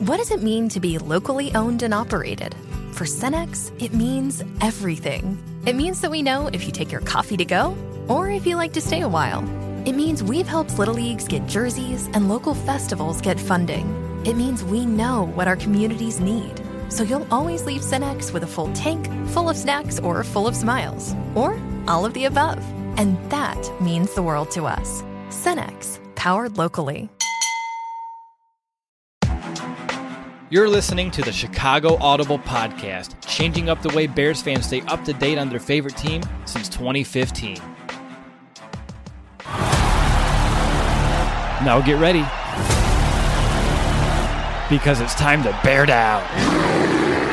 What does it mean to be locally owned and operated? For Cenex, it means everything. It means that we know if you take your coffee to go or if you like to stay a while. It means we've helped Little Leagues get jerseys and local festivals get funding. It means we know what our communities need. So you'll always leave Cenex with a full tank, full of snacks, or full of smiles. Or all of the above. And that means the world to us. Cenex, powered locally. You're listening to the Chicago Audible Podcast, changing up the way Bears fans stay up to date on their favorite team since 2015. Now get ready, because it's time to bear down.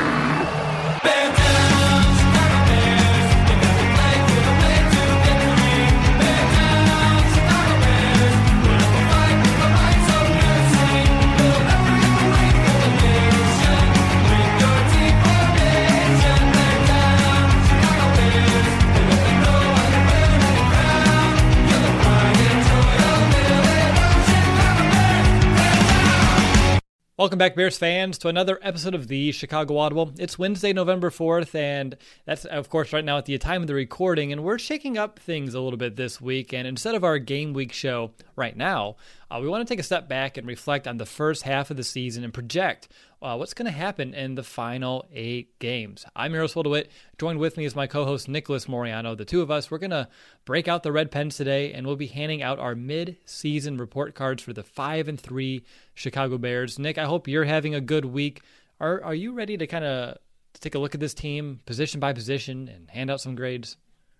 Welcome back, Bears fans, to another episode of the Chicago Audible. It's Wednesday, November 4th, and that's, of course, right now at the time of the recording, and we're shaking up things a little bit this week, and instead of our game week show right now, we want to take a step back and reflect on the first half of the season and project what's going to happen in the final 8 games. I'm Miroslav DeWitt. Joined with me is my co-host Nicholas Moriano. The two of us, we're going to break out the red pens today, and we'll be handing out our mid-season report cards for the 5-3 Chicago Bears. Nick, I hope you're having a good week. Are you ready to kind of take a look at this team position by position and hand out some grades?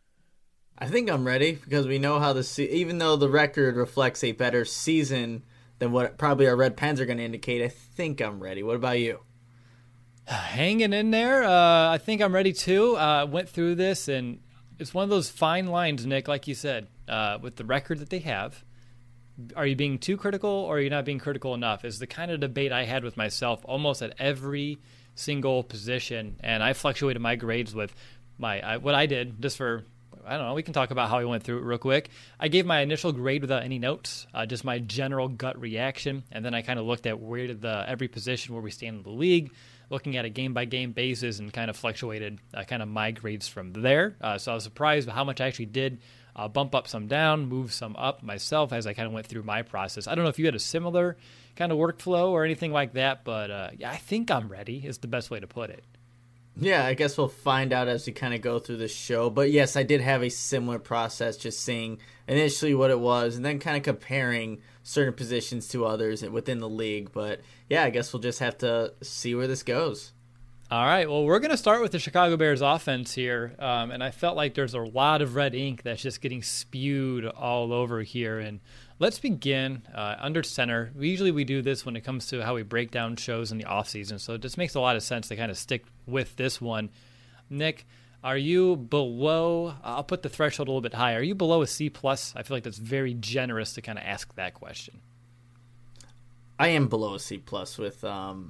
I think I'm ready because we know how even though the record reflects a better season than what probably our red pens are going to indicate, I think I'm ready. What about you? Hanging in there. I think I'm ready too. Went through this, and it's one of those fine lines, Nick, like you said, with the record that they have. Are you being too critical or are you not being critical enough? Is the kind of debate I had with myself almost at every single position, and I fluctuated my grades with what I did just for, I don't know, we can talk about how I went through it real quick. I gave my initial grade without any notes, just my general gut reaction, and then I kind of looked at where did every position where we stand in the league, looking at a game-by-game basis, and kind of fluctuated kind of my grades from there. So I was surprised by how much I actually did bump up some down, move some up myself as I kind of went through my process. I don't know if you had a similar kind of workflow or anything like that, but yeah, I think I'm ready is the best way to put it. Yeah, I guess we'll find out as we kind of go through the show. But yes, I did have a similar process, just seeing initially what it was and then kind of comparing certain positions to others within the league. But yeah, I guess we'll just have to see where this goes. All right, well, we're going to start with the Chicago Bears offense here, and I felt like there's a lot of red ink that's just getting spewed all over here, and let's begin under center. Usually we do this when it comes to how we break down shows in the offseason, so it just makes a lot of sense to kind of stick with this one. Nick, are you below, I'll put the threshold a little bit higher, are you below a C+? I feel like that's very generous to kind of ask that question. I am below a C+ with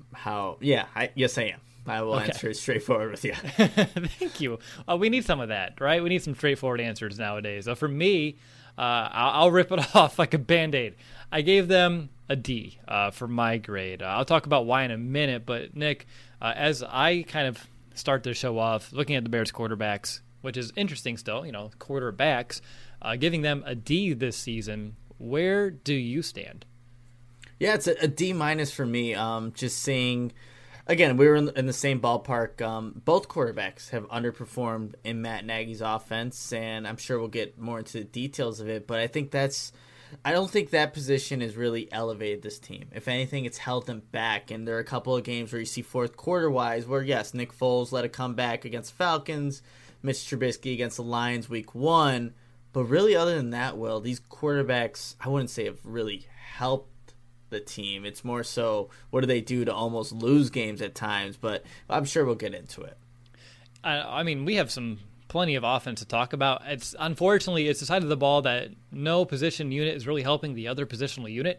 yes, I am. I will answer it straightforward with you. Thank you. We need some of that, right? We need some straightforward answers nowadays. So for me, I'll rip it off like a Band-Aid. I gave them a D for my grade. I'll talk about why in a minute, but Nick, as I kind of start the show off, looking at the Bears quarterbacks, which is interesting still, quarterbacks, giving them a D this season, where do you stand? Yeah, it's a D- for me. Just seeing... Again, we were in the same ballpark. Both quarterbacks have underperformed in Matt Nagy's offense, and I'm sure we'll get more into the details of it, but I don't think that position has really elevated this team. If anything, it's held them back, and there are a couple of games where you see fourth quarter-wise where, yes, Nick Foles led a comeback against Falcons, Mitch Trubisky against the Lions week 1, but really other than that, Will, these quarterbacks, I wouldn't say have really helped the team. It's more so what do they do to almost lose games at times, but I'm sure we'll get into it. I mean, we have plenty of offense to talk about. Unfortunately, it's the side of the ball that no position unit is really helping the other positional unit.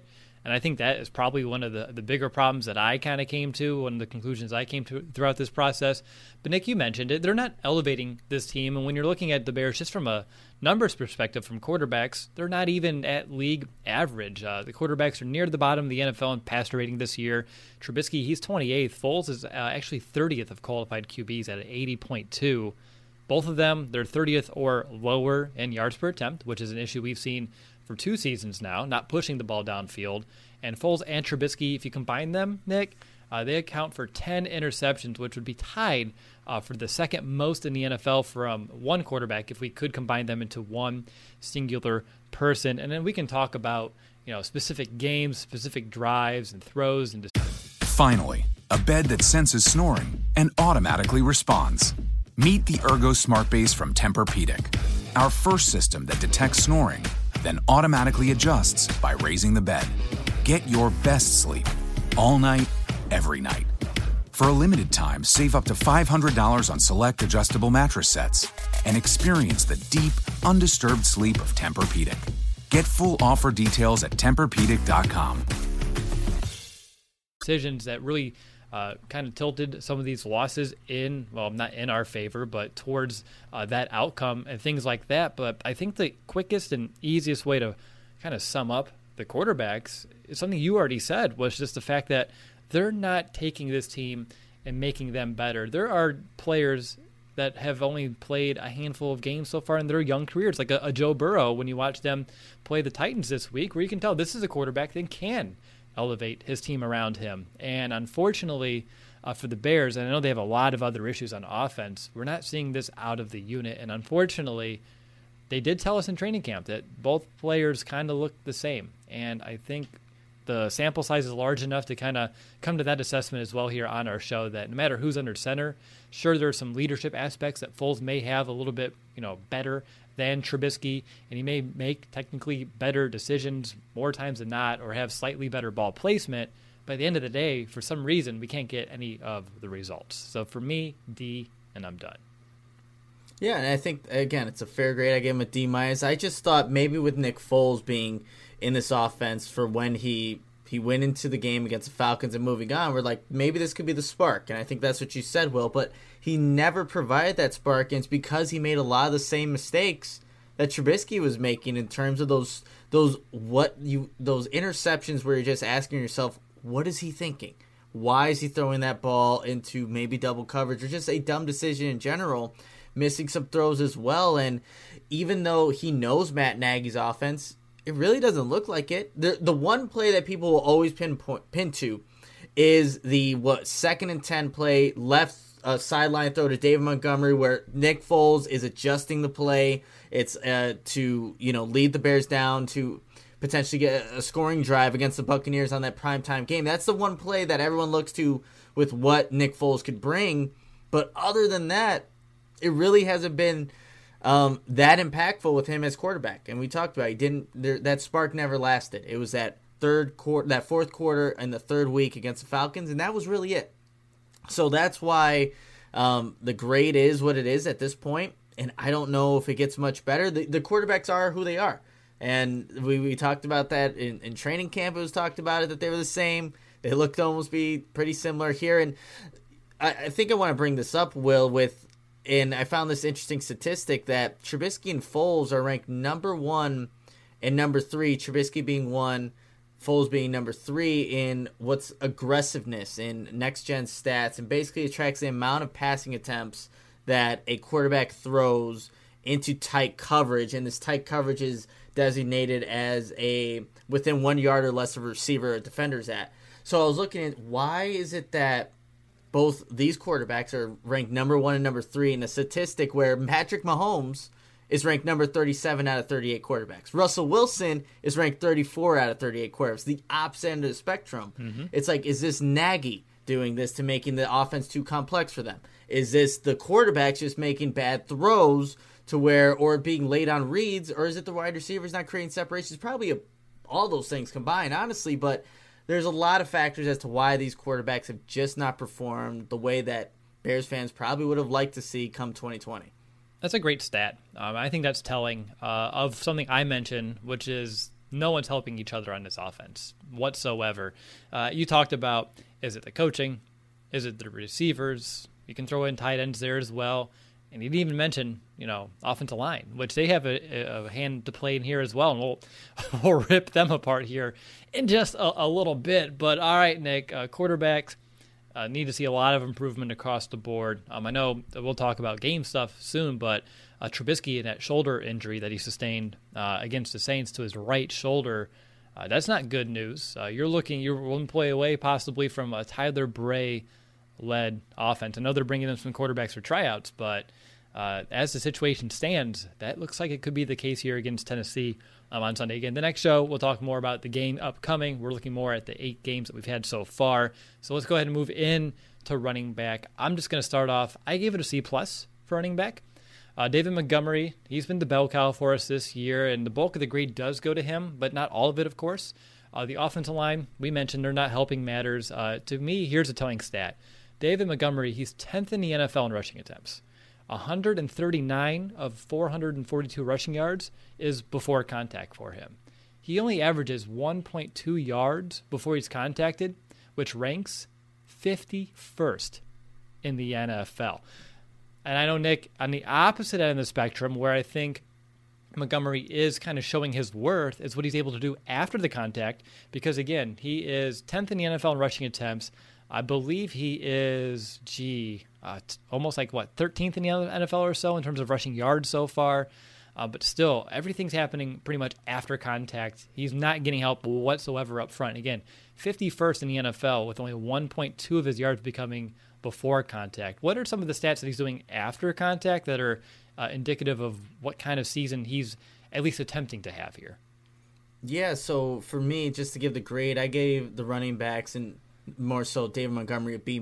And I think that is probably one of the bigger problems that I kind of came to, one of the conclusions I came to throughout this process. But Nick, you mentioned it. They're not elevating this team. And when you're looking at the Bears just from a numbers perspective from quarterbacks, they're not even at league average. The quarterbacks are near the bottom of the NFL in passer rating this year. Trubisky, he's 28th. Foles is actually 30th of qualified QBs at an 80.2. Both of them, they're 30th or lower in yards per attempt, which is an issue we've seen for 2 seasons now, not pushing the ball downfield. And Foles and Trubisky, if you combine them, Nick, they account for 10 interceptions, which would be tied for the second most in the NFL from one quarterback if we could combine them into one singular person. And then we can talk about, specific games, specific drives and throws. Finally, a bed that senses snoring and automatically responds. Meet the Ergo Smart Base from Tempur-Pedic, our first system that detects snoring, then automatically adjusts by raising the bed. Get your best sleep all night, every night. For a limited time, save up to $500 on select adjustable mattress sets and experience the deep, undisturbed sleep of Tempur-Pedic. Get full offer details at TempurPedic.com. Decisions that really kind of tilted some of these losses not in our favor, but towards that outcome and things like that. But I think the quickest and easiest way to kind of sum up the quarterbacks is something you already said, was just the fact that they're not taking this team and making them better. There are players that have only played a handful of games so far in their young careers, like a Joe Burrow, when you watch them play the Titans this week, where you can tell this is a quarterback that can elevate his team around him. And unfortunately for the Bears, and I know they have a lot of other issues on offense, we're not seeing this out of the unit. And unfortunately, they did tell us in training camp that both players kind of look the same. And I think the sample size is large enough to kind of come to that assessment as well here on our show, that no matter who's under center, sure, there are some leadership aspects that Foles may have a little bit, better than Trubisky, and he may make technically better decisions more times than not, or have slightly better ball placement. But at the end of the day, for some reason, we can't get any of the results. So for me, D, and I'm done. Yeah, and I think, again, it's a fair grade. I gave him a D-. I just thought maybe with Nick Foles being in this offense for when he went into the game against the Falcons and moving on, we're like, maybe this could be the spark. And I think that's what you said, Will. But he never provided that spark, and it's because he made a lot of the same mistakes that Trubisky was making in terms of those interceptions where you're just asking yourself, what is he thinking? Why is he throwing that ball into maybe double coverage, or just a dumb decision in general, missing some throws as well? And even though he knows Matt Nagy's offense, it really doesn't look like it. The one play that people will always pin to is the 2nd and 10 play, left sideline throw to David Montgomery, where Nick Foles is adjusting the play. It's to lead the Bears down to potentially get a scoring drive against the Buccaneers on that primetime game. That's the one play that everyone looks to with what Nick Foles could bring. But other than that, it really hasn't been that impactful with him as quarterback. And we talked about that spark never lasted. It was that fourth quarter and the third week against the Falcons, and that was really it. So that's why the grade is what it is at this point, and I don't know if it gets much better. The quarterbacks are who they are, and we talked about that in training camp. It was talked about it that they were the same. They looked to almost be pretty similar here, and I think I want to bring this up, Will, and I found this interesting statistic that Trubisky and Foles are ranked number 1 and number 3, Trubisky being 1, Foles being number 3 in what's aggressiveness in next-gen stats, and basically it tracks the amount of passing attempts that a quarterback throws into tight coverage, and this tight coverage is designated as a within 1 yard or less of a receiver or defender's at. So I was looking at why is it that both these quarterbacks are ranked number 1 and number 3 in a statistic where Patrick Mahomes is ranked number 37 out of 38 quarterbacks. Russell Wilson is ranked 34 out of 38 quarterbacks. The opposite end of the spectrum. Mm-hmm. It's like, is this Nagy doing this to making the offense too complex for them? Is this the quarterbacks just making bad throws or being late on reads, or is it the wide receivers not creating separations? Probably all those things combined, honestly, but there's a lot of factors as to why these quarterbacks have just not performed the way that Bears fans probably would have liked to see come 2020. That's a great stat. I think that's telling of something I mentioned, which is No one's helping each other on this offense whatsoever. You talked about, is it the coaching? Is it the receivers? You can throw in tight ends there as well. And you didn't even mention, offensive line, which they have a hand to play in here as well. And we'll rip them apart here in just a little bit. But all right, Nick, quarterbacks need to see a lot of improvement across the board. I know that we'll talk about game stuff soon, but Trubisky and that shoulder injury that he sustained against the Saints to his right shoulder, that's not good news. You're one play away possibly from a Tyler Bray-led offense. I know they're bringing in some quarterbacks for tryouts, but as the situation stands, that looks like it could be the case here against Tennessee on Sunday. Again, the next show, we'll talk more about the game upcoming. We're looking more at the 8 games that we've had so far. So let's go ahead and move in to running back. I'm just going to start off. I gave it a C+ for running back. David Montgomery, he's been the bell cow for us this year, and the bulk of the grade does go to him, but not all of it, of course. The offensive line, we mentioned, they're not helping matters. To me, here's a telling stat. David Montgomery, he's 10th in the NFL in rushing attempts. 139 of 442 rushing yards is before contact for him. He only averages 1.2 yards before he's contacted, which ranks 51st in the NFL. And I know, Nick, on the opposite end of the spectrum, where I think Montgomery is kind of showing his worth, is what he's able to do after the contact, because, again, he is 10th in the NFL in rushing attempts. I believe he is, almost like, 13th in the NFL or so in terms of rushing yards so far. But still, everything's happening pretty much after contact. He's not getting help whatsoever up front. Again, 51st in the NFL with only 1.2 of his yards becoming before contact. What are some of the stats that he's doing after contact that are indicative of what kind of season he's at least attempting to have here? Yeah, so for me, just to give the grade, I gave the running backs and more so David Montgomery a B-.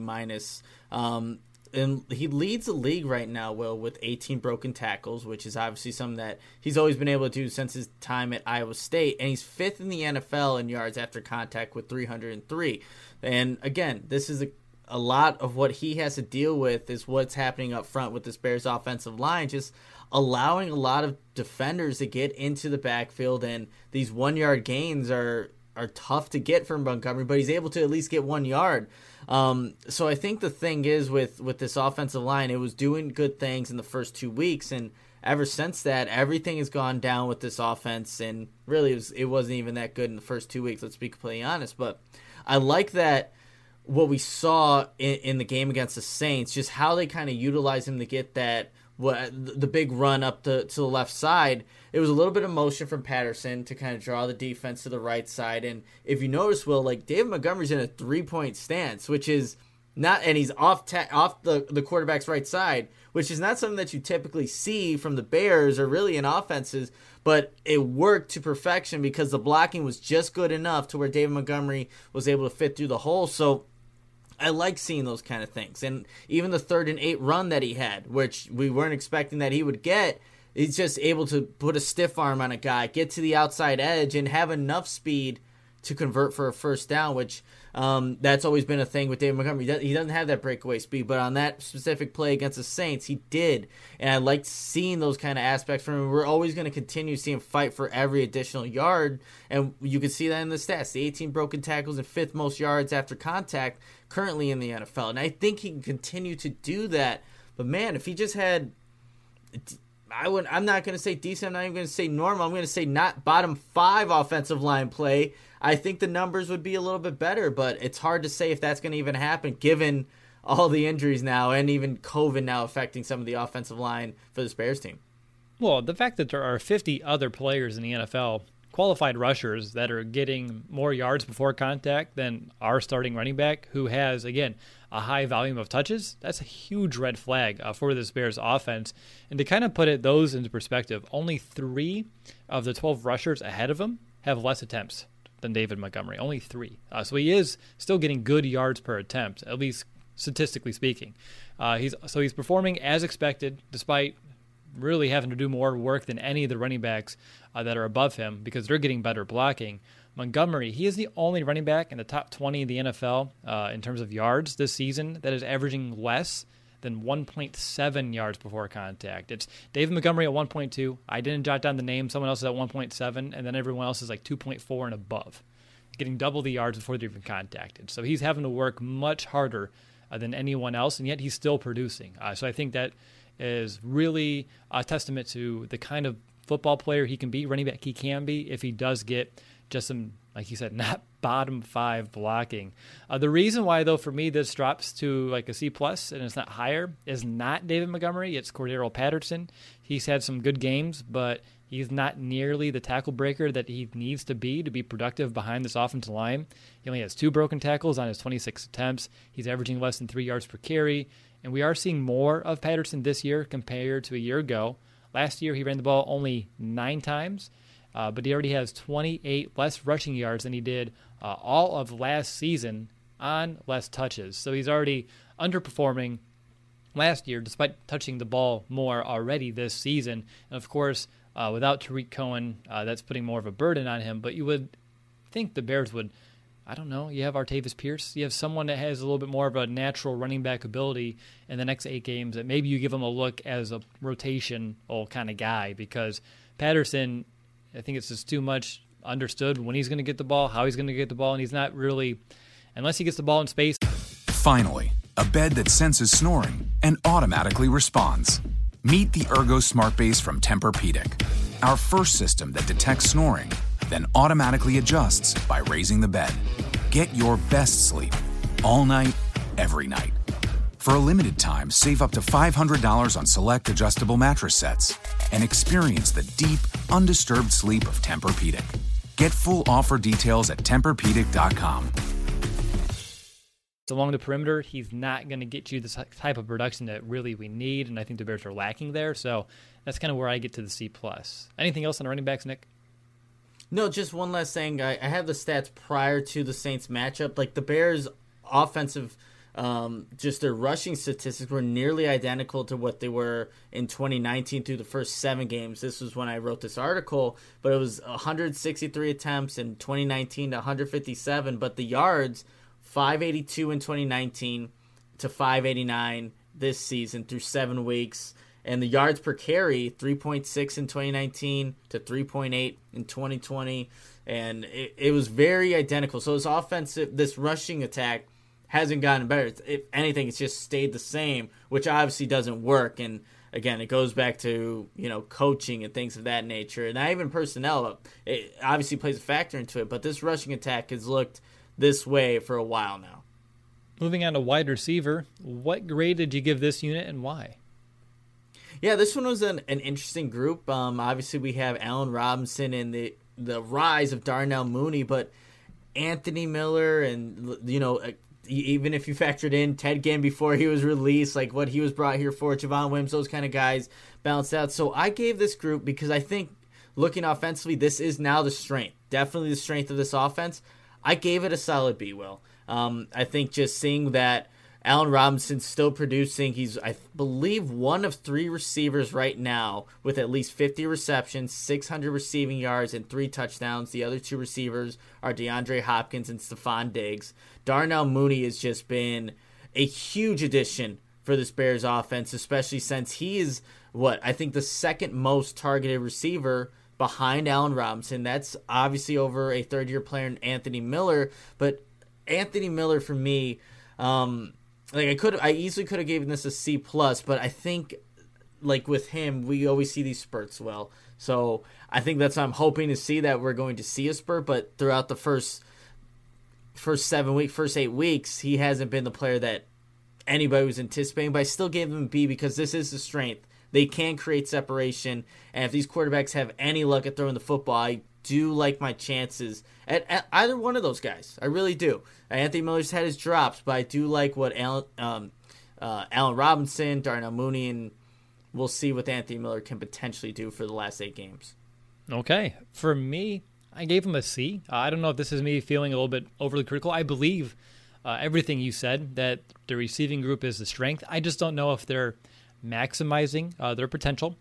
And he leads the league right now, Will, with 18 broken tackles, which is obviously something that he's always been able to do since his time at Iowa State. And he's 5th in the NFL in yards after contact with 303. And again, this is a lot of what he has to deal with is what's happening up front with this Bears offensive line, just allowing a lot of defenders to get into the backfield. And these 1-yard gains are tough to get from Montgomery, but he's able to at least get 1 yard. So I think the thing is with this offensive line, it was doing good things in the first 2 weeks, and ever since that, everything has gone down with this offense, and really it wasn't even that good in the first 2 weeks, let's be completely honest. But I like that what we saw in the game against the Saints, just how they kind of utilized him to get the big run up to the left side. It was a little bit of motion from Patterson to kind of draw the defense to the right side. And if you notice, Will, like David Montgomery's in a 3-point stance, which is not, and he's off the quarterback's right side, which is not something that you typically see from the Bears or really in offenses, but it worked to perfection because the blocking was just good enough to where David Montgomery was able to fit through the hole. So I like seeing those kind of things. And even the 3rd and 8 run that he had, which we weren't expecting that he would get, he's just able to put a stiff arm on a guy, get to the outside edge, and have enough speed to convert for a first down, which that's always been a thing with David Montgomery. He doesn't have that breakaway speed, but on that specific play against the Saints, he did. And I liked seeing those kind of aspects from him. We're always going to continue to see him fight for every additional yard, and you can see that in the stats. The 18 broken tackles and 5th most yards after contact currently in the NFL. And I think he can continue to do that. But, man, if he just had – I'm not going to say decent. I'm not even going to say normal. I'm going to say not bottom 5 offensive line play. I think the numbers would be a little bit better, but it's hard to say if that's going to even happen given all the injuries now and even COVID now affecting some of the offensive line for this Bears team. Well, the fact that there are 50 other players in the NFL, qualified rushers, that are getting more yards before contact than our starting running back, who has, again, a high volume of touches, that's a huge red flag for this Bears offense. And to kind of put those into perspective, only 3 of the 12 rushers ahead of him have less attempts than David Montgomery. Only 3. So he is still getting good yards per attempt, at least statistically speaking. He's performing as expected, despite really having to do more work than any of the running backs that are above him because they're getting better blocking. Montgomery, he is the only running back in the top 20 of the NFL in terms of yards this season that is averaging less than 1.7 yards before contact. It's David Montgomery at 1.2. I didn't jot down the name. Someone else is at 1.7, and then everyone else is like 2.4 and above, getting double the yards before they're even contacted. So he's having to work much harder than anyone else, and yet he's still producing. So I think that is really a testament to the kind of football player he can be, running back he can be, if he does get just some, like you said, not bottom 5 blocking. The reason why, though, for me, this drops to like a C+, and it's not higher, is not David Montgomery. It's Cordero Patterson. He's had some good games, but he's not nearly the tackle breaker that he needs to be productive behind this offensive line. He only has 2 broken tackles on his 26 attempts. He's averaging less than 3 yards per carry. And we are seeing more of Patterson this year compared to a year ago. Last year, he ran the ball only 9 times, but he already has 28 less rushing yards than he did all of last season on less touches. So he's already underperforming last year, despite touching the ball more already this season. And of course, without Tariq Cohen, that's putting more of a burden on him. But you would think the Bears would, I don't know, you have Artavis Pierce. You have someone that has a little bit more of a natural running back ability in the next 8 games that maybe you give him a look as a rotational kind of guy, because Patterson, I think it's just too much understood when he's going to get the ball, how he's going to get the ball, and he's not really, unless he gets the ball in space. Finally, a bed that senses snoring and automatically responds. Meet the Ergo Smart Base from Tempur-Pedic, our first system that detects snoring, then automatically adjusts by raising the bed. Get your best sleep all night, every night. For a limited time, save up to $500 on select adjustable mattress sets and experience the deep, undisturbed sleep of Tempur-Pedic. Get full offer details at TempurPedic.com. Along the perimeter, he's not going to get you the type of production that really we need, and I think the Bears are lacking there. So that's kind of where I get to the C+. Anything else on the running backs, Nick? No, just one last thing. I have the stats prior to the Saints matchup. Like the Bears' offensive, just their rushing statistics were nearly identical to what they were in 2019 through the first 7 games. This was when I wrote this article, but it was 163 attempts in 2019 to 157. But the yards, 582 in 2019 to 589 this season through 7 weeks. And the yards per carry, 3.6 in 2019 to 3.8 in 2020. And it was very identical. So this offensive, this rushing attack hasn't gotten better. If anything, it's just stayed the same, which obviously doesn't work. And again, it goes back to, coaching and things of that nature. And not even personnel. It obviously plays a factor into it. But this rushing attack has looked this way for a while now. Moving on to wide receiver, what grade did you give this unit and why? Yeah, this one was an interesting group. Obviously, we have Allen Robinson and the rise of Darnell Mooney, but Anthony Miller and, even if you factored in Ted Ginn before he was released, like what he was brought here for, Javon Wims, those kind of guys balanced out. So I gave this group because I think looking offensively, this is now the strength, definitely the strength of this offense. I gave it a solid B, Will. I think just seeing that Allen Robinson's still producing. He's, I believe, one of 3 receivers right now with at least 50 receptions, 600 receiving yards, and 3 touchdowns. The other 2 receivers are DeAndre Hopkins and Stephon Diggs. Darnell Mooney has just been a huge addition for this Bears offense, especially since he is, I think the second most targeted receiver behind Allen Robinson. That's obviously over a third-year player, Anthony Miller. But Anthony Miller, for me, I easily could have given this a C+, but I think, with him, we always see these spurts, So I think that's what I'm hoping to see, that we're going to see a spurt, but throughout the first 8 weeks, he hasn't been the player that anybody was anticipating, but I still gave him a B because this is the strength. They can create separation, and if these quarterbacks have any luck at throwing the football, I do like my chances at either one of those guys. I really do. Anthony Miller's had his drops, but I do like what Allen Robinson, Darnell Mooney, and we'll see what Anthony Miller can potentially do for the last 8 games. Okay. For me, I gave him a C. I don't know if this is me feeling a little bit overly critical. I believe everything you said, that the receiving group is the strength. I just don't know if they're maximizing their potential.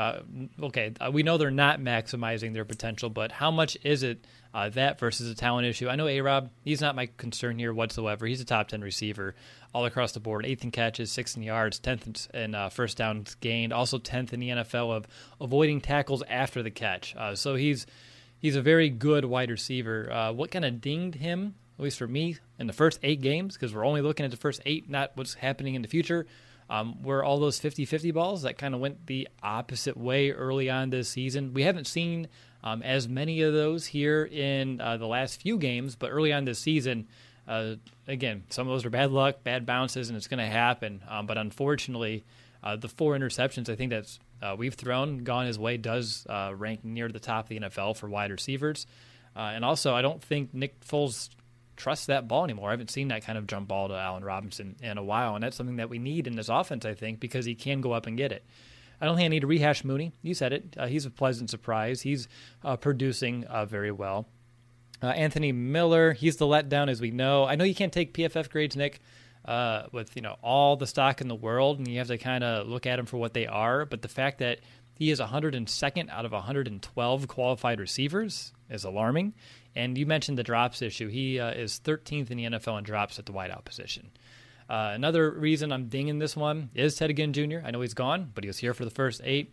We know they're not maximizing their potential, but how much is it that versus a talent issue? I know A-Rob, he's not my concern here whatsoever. He's a top 10 receiver all across the board, 8th in catches, 6th in yards, 10th in first downs gained, also 10th in the NFL of avoiding tackles after the catch. So he's a very good wide receiver. What kind of dinged him, at least for me, in the first 8 games, because we're only looking at the first 8, not what's happening in the future, were all those 50-50 balls that kind of went the opposite way early on this season. We haven't seen as many of those here in the last few games, but early on this season, again, some of those are bad luck, bad bounces, and it's going to happen. But unfortunately, the 4 interceptions I think that's we've thrown, gone his way, does rank near the top of the NFL for wide receivers. And also, I don't think Nick Foles trusts that ball anymore. I haven't seen that kind of jump ball to Allen Robinson in a while, and that's something that we need in this offense, I think, because he can go up and get it. I don't think I need to rehash Mooney. You said it. He's a pleasant surprise. He's producing very well. Anthony Miller, he's the letdown, as we know. I know you can't take PFF grades, Nick, with all the stock in the world, and you have to kind of look at them for what they are. But the fact that he is 102nd out of 112 qualified receivers is alarming. And you mentioned the drops issue. He is 13th in the NFL in drops at the wideout position. Another reason I'm dinging this one is Ted Ginn Jr. I know he's gone, but he was here for the first 8.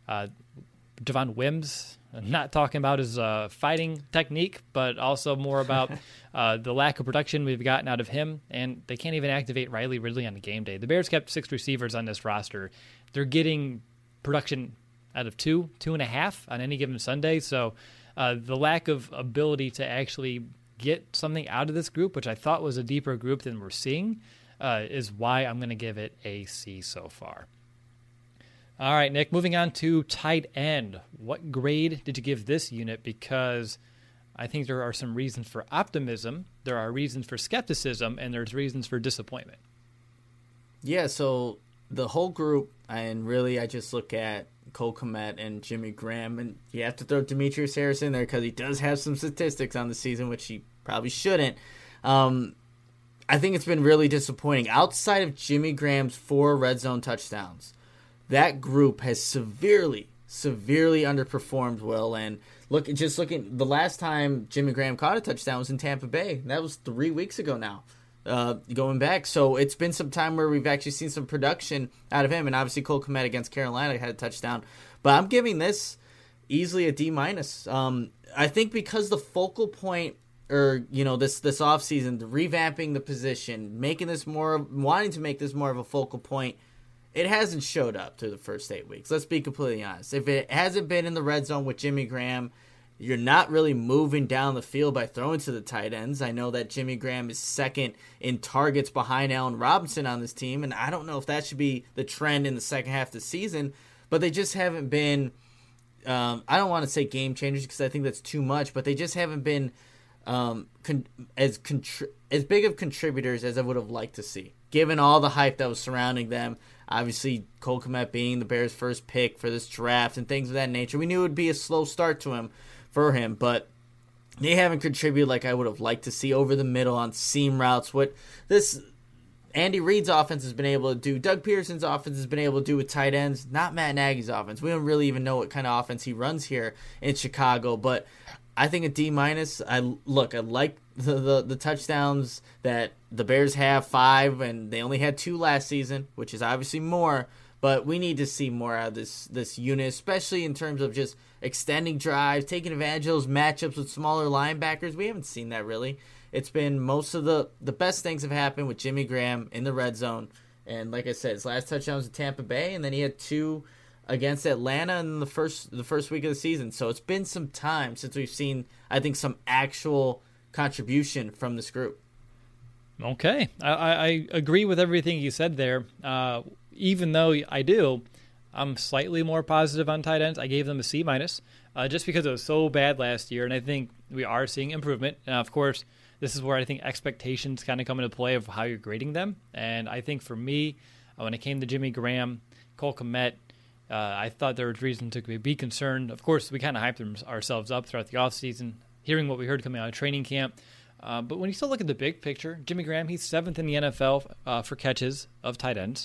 Javon Wims, I'm not talking about his fighting technique, but also more about the lack of production we've gotten out of him. And they can't even activate Riley Ridley on the game day. The Bears kept 6 receivers on this roster. They're getting production out of 2.5 on any given Sunday. So the lack of ability to actually get something out of this group, which I thought was a deeper group than we're seeing, is why I'm going to give it a C so far. All right, Nick, moving on to tight end. What grade did you give this unit? Because I think there are some reasons for optimism, there are reasons for skepticism, and there's reasons for disappointment. Yeah, so the whole group, and really I just look at Cole Kmet and Jimmy Graham, and you have to throw Demetrius Harris in there because he does have some statistics on the season, which he probably shouldn't. I think it's been really disappointing. Outside of Jimmy Graham's 4 red zone touchdowns, that group has severely underperformed, Will. And looking, the last time Jimmy Graham caught a touchdown was in Tampa Bay. That was 3 weeks ago now, going back. So it's been some time where we've actually seen some production out of him. And obviously Cole Kmet against Carolina had a touchdown. But I'm giving this easily a D-. I think because the focal point, or this offseason, revamping the position, wanting to make this more of a focal point, it hasn't showed up through the first 8 weeks. Let's be completely honest. If it hasn't been in the red zone with Jimmy Graham, you're not really moving down the field by throwing to the tight ends. I know that Jimmy Graham is second in targets behind Allen Robinson on this team, and I don't know if that should be the trend in the second half of the season, but they just haven't been, I don't want to say game changers because I think that's too much, but they just haven't been as big of contributors as I would have liked to see, given all the hype that was surrounding them. Obviously, Cole Kmet being the Bears' first pick for this draft and things of that nature. We knew it would be a slow start for him, but they haven't contributed like I would have liked to see over the middle on seam routes. What this Andy Reid's offense has been able to do, Doug Peterson's offense has been able to do with tight ends, not Matt Nagy's offense. We don't really even know what kind of offense he runs here in Chicago, but I think a D-. I like the touchdowns that the Bears have, 5, and they only had 2 last season, which is obviously more. But we need to see more out of this unit, especially in terms of just extending drives, taking advantage of those matchups with smaller linebackers. We haven't seen that really. It's been most of the best things have happened with Jimmy Graham in the red zone. And like I said, his last touchdown was in Tampa Bay, and then he had 2 against Atlanta in the first week of the season. So it's been some time since we've seen, I think, some actual contribution from this group. Okay. I agree with everything you said there. Even though I'm slightly more positive on tight ends. I gave them a C-, just because it was so bad last year, and I think we are seeing improvement. Now, of course, this is where I think expectations kind of come into play of how you're grading them. And I think for me, when it came to Jimmy Graham, Cole Kmet, I thought there was reason to be concerned. Of course, we kind of hyped ourselves up throughout the offseason, hearing what we heard coming out of training camp. But when you still look at the big picture, Jimmy Graham, he's 7th in the NFL for catches of tight ends.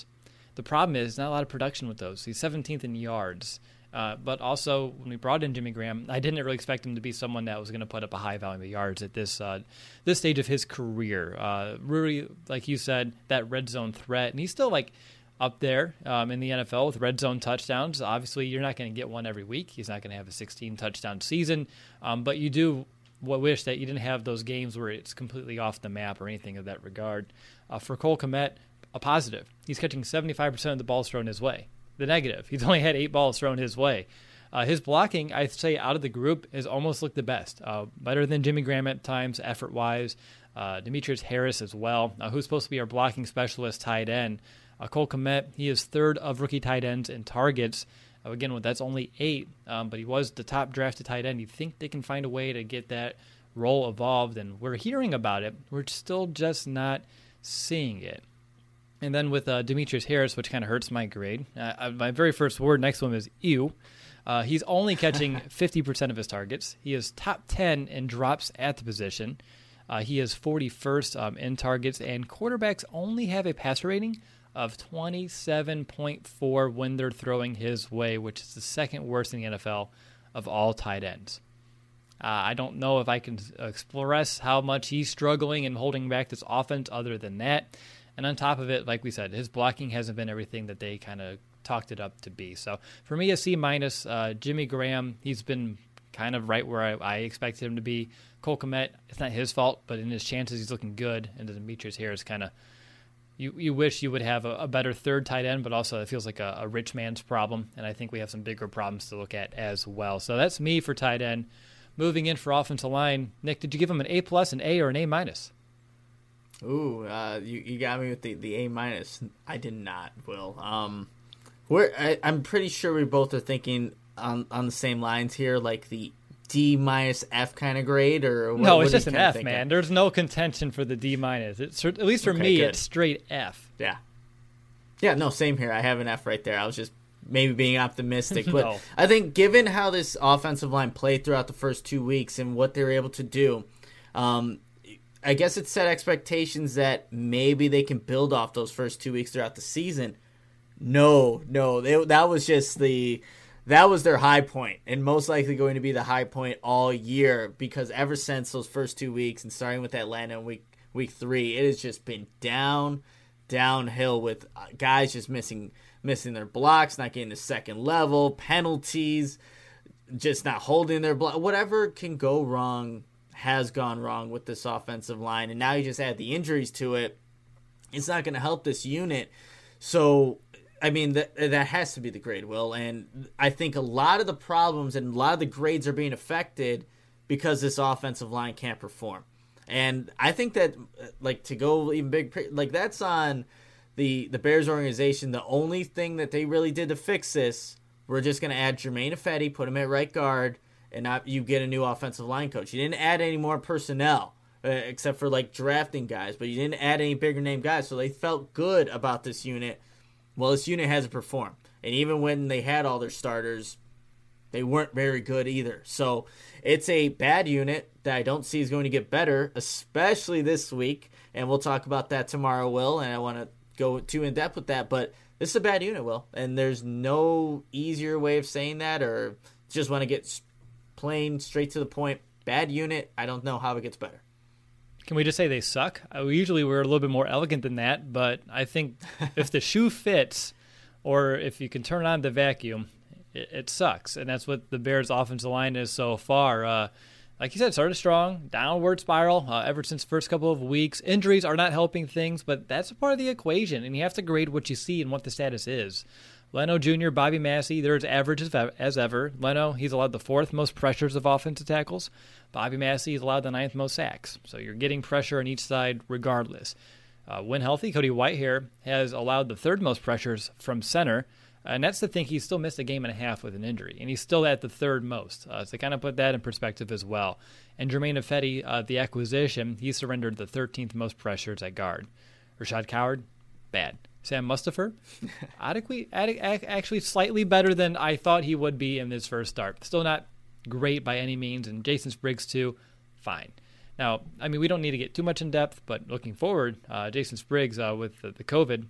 The problem is not a lot of production with those. He's 17th in yards. But also, when we brought in Jimmy Graham, I didn't really expect him to be someone that was going to put up a high volume of yards at this stage of his career. Really, like you said, that red zone threat, and he's still like up there in the NFL with red zone touchdowns. Obviously, you're not going to get one every week. He's not going to have a 16 touchdown season, but you do wish that you didn't have those games where it's completely off the map or anything of that regard. For Cole Kmet, a positive. He's catching 75% of the balls thrown his way. The negative, he's only had 8 balls thrown his way. His blocking, I'd say, out of the group has almost looked the best. Better than Jimmy Graham at times, effort-wise. Demetrius Harris as well, who's supposed to be our blocking specialist tight end. Cole Kmet, he is third of rookie tight ends in targets. Again, that's only 8, but he was the top drafted tight end. You think they can find a way to get that role evolved, and we're hearing about it. We're still just not seeing it. And then with Demetrius Harris, which kind of hurts my grade, my very first word next to him is ew. He's only catching 50% of his targets. He is top 10 in drops at the position. He is 41st in targets, and quarterbacks only have a passer rating of 27.4 when they're throwing his way, which is the second worst in the NFL of all tight ends. I don't know if I can express how much he's struggling and holding back this offense other than that. And on top of it, like we said, his blocking hasn't been everything that they kind of talked it up to be. So for me, a C-. Jimmy Graham, he's been kind of right where I expected him to be. Cole Kmet, it's not his fault, but in his chances, he's looking good. And then Demetrius Harris kind of, you wish you would have a better third tight end, but also it feels like a rich man's problem. And I think we have some bigger problems to look at as well. So that's me for tight end. Moving in for offensive line, Nick, did you give him an A+, an A, or an A-? Ooh, you got me with the A-. I did not, Will. I'm pretty sure we both are thinking on the same lines here, like the D- F kind of grade, or no, it's just an F, man. There's no contention for the D-. It's at least for me, good. It's straight F. Yeah, no, same here. I have an F right there. I was just maybe being optimistic, but no. I think given how this offensive line played throughout the first 2 weeks and what they were able to do, I guess it set expectations that maybe they can build off those first 2 weeks throughout the season. No, that was their high point, and most likely going to be the high point all year, because ever since those first 2 weeks and starting with Atlanta in week 3, it has just been downhill with guys just missing their blocks, not getting to second level, penalties, just not holding their block. Whatever can go wrong has gone wrong with this offensive line, and now you just add the injuries to it. It's not going to help this unit. So, I mean, that has to be the grade, Will. And I think a lot of the problems and a lot of the grades are being affected because this offensive line can't perform. And I think that, like, to go even big, like, that's on the Bears organization. The only thing that they really did to fix this, we're just going to add Germain Ifedi, put him at right guard, and you get a new offensive line coach. You didn't add any more personnel, except for, like, drafting guys, but you didn't add any bigger name guys, so they felt good about this unit. Well, this unit hasn't performed, and even when they had all their starters, they weren't very good either. So it's a bad unit that I don't see is going to get better, especially this week, and we'll talk about that tomorrow, Will, and I want to go too in-depth with that, but this is a bad unit, Will, and there's no easier way of saying that, or just want to get plain straight to the point. Bad unit. I don't know how it gets better. Can we just say they suck? Usually we're a little bit more elegant than that, but I think if the shoe fits, or if you can turn on the vacuum, it sucks. And that's what the Bears' offensive line is so far. Like you said, started strong, downward spiral ever since the first couple of weeks. Injuries are not helping things, but that's a part of the equation, and you have to grade what you see and what the status is. Leno Jr., Bobby Massey, they're as average as ever. Leno, he's allowed the 4th most pressures of offensive tackles. Bobby Massey, he's allowed the 9th most sacks. So you're getting pressure on each side regardless. When healthy, Cody Whitehair has allowed the 3rd most pressures from center. And that's the thing, he's still missed a game and a half with an injury, and he's still at the 3rd most. So kind of put that in perspective as well. And Germain Ifedi, the acquisition, he surrendered the 13th most pressures at guard. Rashad Coward, bad. Sam Mustipher, actually slightly better than I thought he would be in his first start. Still not great by any means, and Jason Spriggs too, fine. Now, I mean, we don't need to get too much in depth, but looking forward, Jason Spriggs with the COVID,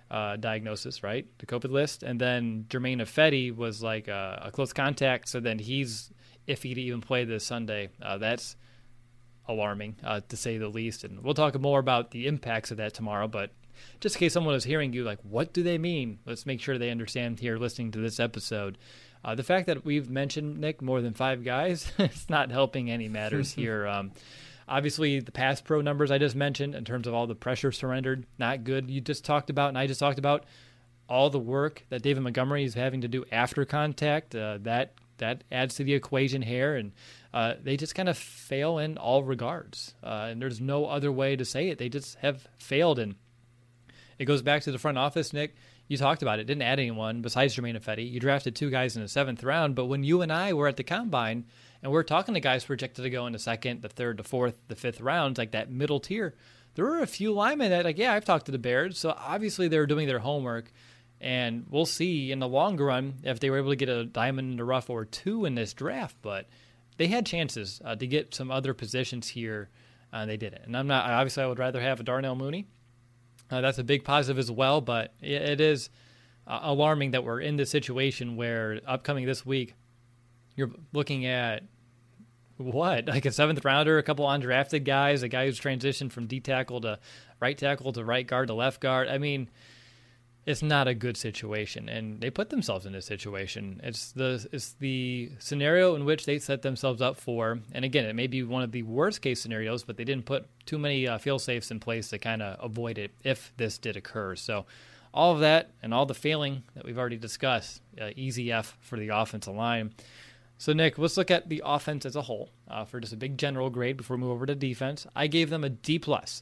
diagnosis, right? The COVID list. And then Jermaine Ifedi was like a close contact. So then he's iffy to even play this Sunday. That's alarming, to say the least. And we'll talk more about the impacts of that tomorrow. But just in case someone is hearing you, like, what do they mean? Let's make sure they understand here listening to this episode. The fact that we've mentioned, Nick, more than 5 guys, it's not helping any matters here. Obviously, the pass pro numbers I just mentioned in terms of all the pressure surrendered, not good. You just talked about, and I just talked about, all the work that David Montgomery is having to do after contact. That adds to the equation here, and they just kind of fail in all regards. And there's no other way to say it. They just have failed, and it goes back to the front office, Nick. You talked about it. Didn't add anyone besides Jermaine Ifedi. You drafted 2 guys in the 7th round, but when you and I were at the Combine, and we're talking to guys projected to go in the 2nd, the 3rd, the 4th, the 5th rounds, like that middle tier, there were a few linemen that, like, yeah, I've talked to the Bears, so obviously they're doing their homework, and we'll see in the long run if they were able to get a diamond in the rough or 2 in this draft, but they had chances to get some other positions here, and they didn't. And obviously I would rather have a Darnell Mooney. That's a big positive as well, but it is alarming that we're in this situation where upcoming this week, you're looking at what, like a 7th rounder, a couple undrafted guys, a guy who's transitioned from D tackle to right guard to left guard. I mean, it's not a good situation, and they put themselves in this situation. It's the scenario in which they set themselves up for, and again, it may be one of the worst case scenarios, but they didn't put too many fail safes in place to kind of avoid it if this did occur. So all of that and all the failing that we've already discussed, easy F for the offensive line. So, Nick, let's look at the offense as a whole for just a big general grade before we move over to defense. I gave them a D+.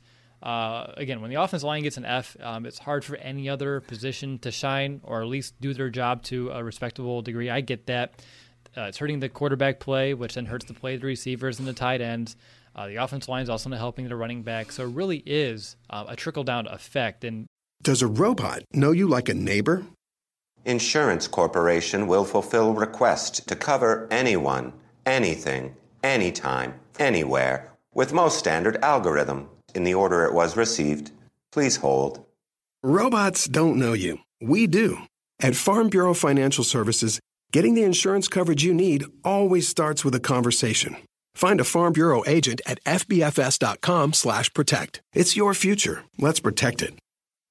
Again, when the offensive line gets an F, it's hard for any other position to shine or at least do their job to a respectable degree. I get that. It's hurting the quarterback play, which then hurts the play of the receivers and the tight ends. The offensive line is also not helping the running back. So it really is a trickle-down effect. And does a robot know you like a neighbor? Insurance Corporation will fulfill requests to cover anyone, anything, anytime, anywhere, with most standard algorithm in the order it was received. Please hold. Robots don't know you. We do. At Farm Bureau Financial Services, getting the insurance coverage you need always starts with a conversation. Find a Farm Bureau agent at fbfs.com/protect. It's your future. Let's protect it.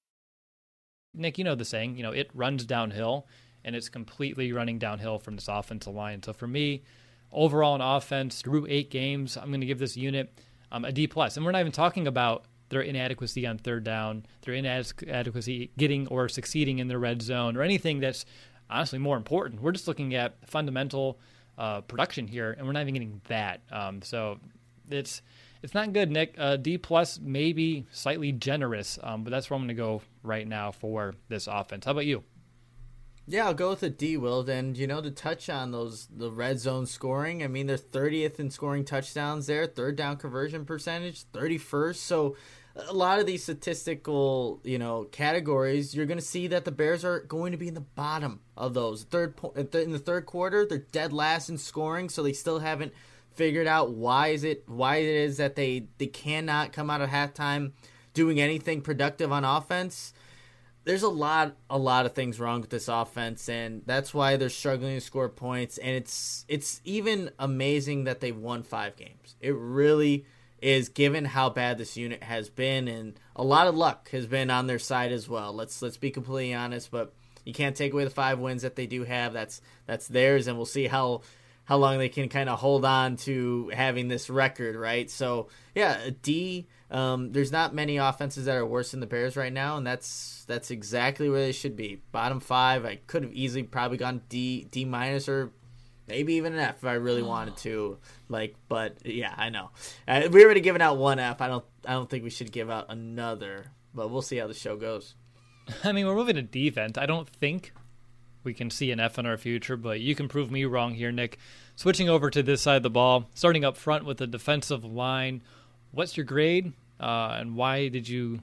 Nick, you know the saying, it runs downhill, and it's completely running downhill from this offensive line. So for me, overall in offense, through 8 games, I'm going to give this unit a D+. And we're not even talking about their inadequacy on 3rd down, their inadequacy getting or succeeding in the red zone, or anything that's honestly more important. We're just looking at fundamental production here, and we're not even getting that. So it's not good, Nick. D+, maybe slightly generous, but that's where I'm going to go right now for this offense. How about you? Yeah, I'll go with a D, Will. And, to touch on the red zone scoring, I mean, they're 30th in scoring touchdowns there, 3rd down conversion percentage, 31st. So a lot of these statistical, categories, you're going to see that the Bears are going to be in the bottom of those. In the 3rd quarter, they're dead last in scoring, so they still haven't figured out why it is that they cannot come out of halftime doing anything productive on offense. There's a lot of things wrong with this offense, and that's why they're struggling to score points. And it's even amazing that they've won 5 games. It really is, given how bad this unit has been, and a lot of luck has been on their side as well. Let's be completely honest, but you can't take away the 5 wins that they do have. That's theirs, and we'll see how long they can kind of hold on to having this record, right? So, yeah, a D. There's not many offenses that are worse than the Bears right now, and that's exactly where they should be. Bottom 5. I could have easily probably gone D- or maybe even an F if I really wanted to. But yeah, I know we already given out 1 F. I don't think we should give out another, but we'll see how the show goes. I mean, we're moving to defense. I don't think we can see an F in our future, but you can prove me wrong here, Nick. Switching over to this side of the ball, starting up front with the defensive line. What's your grade, and why did you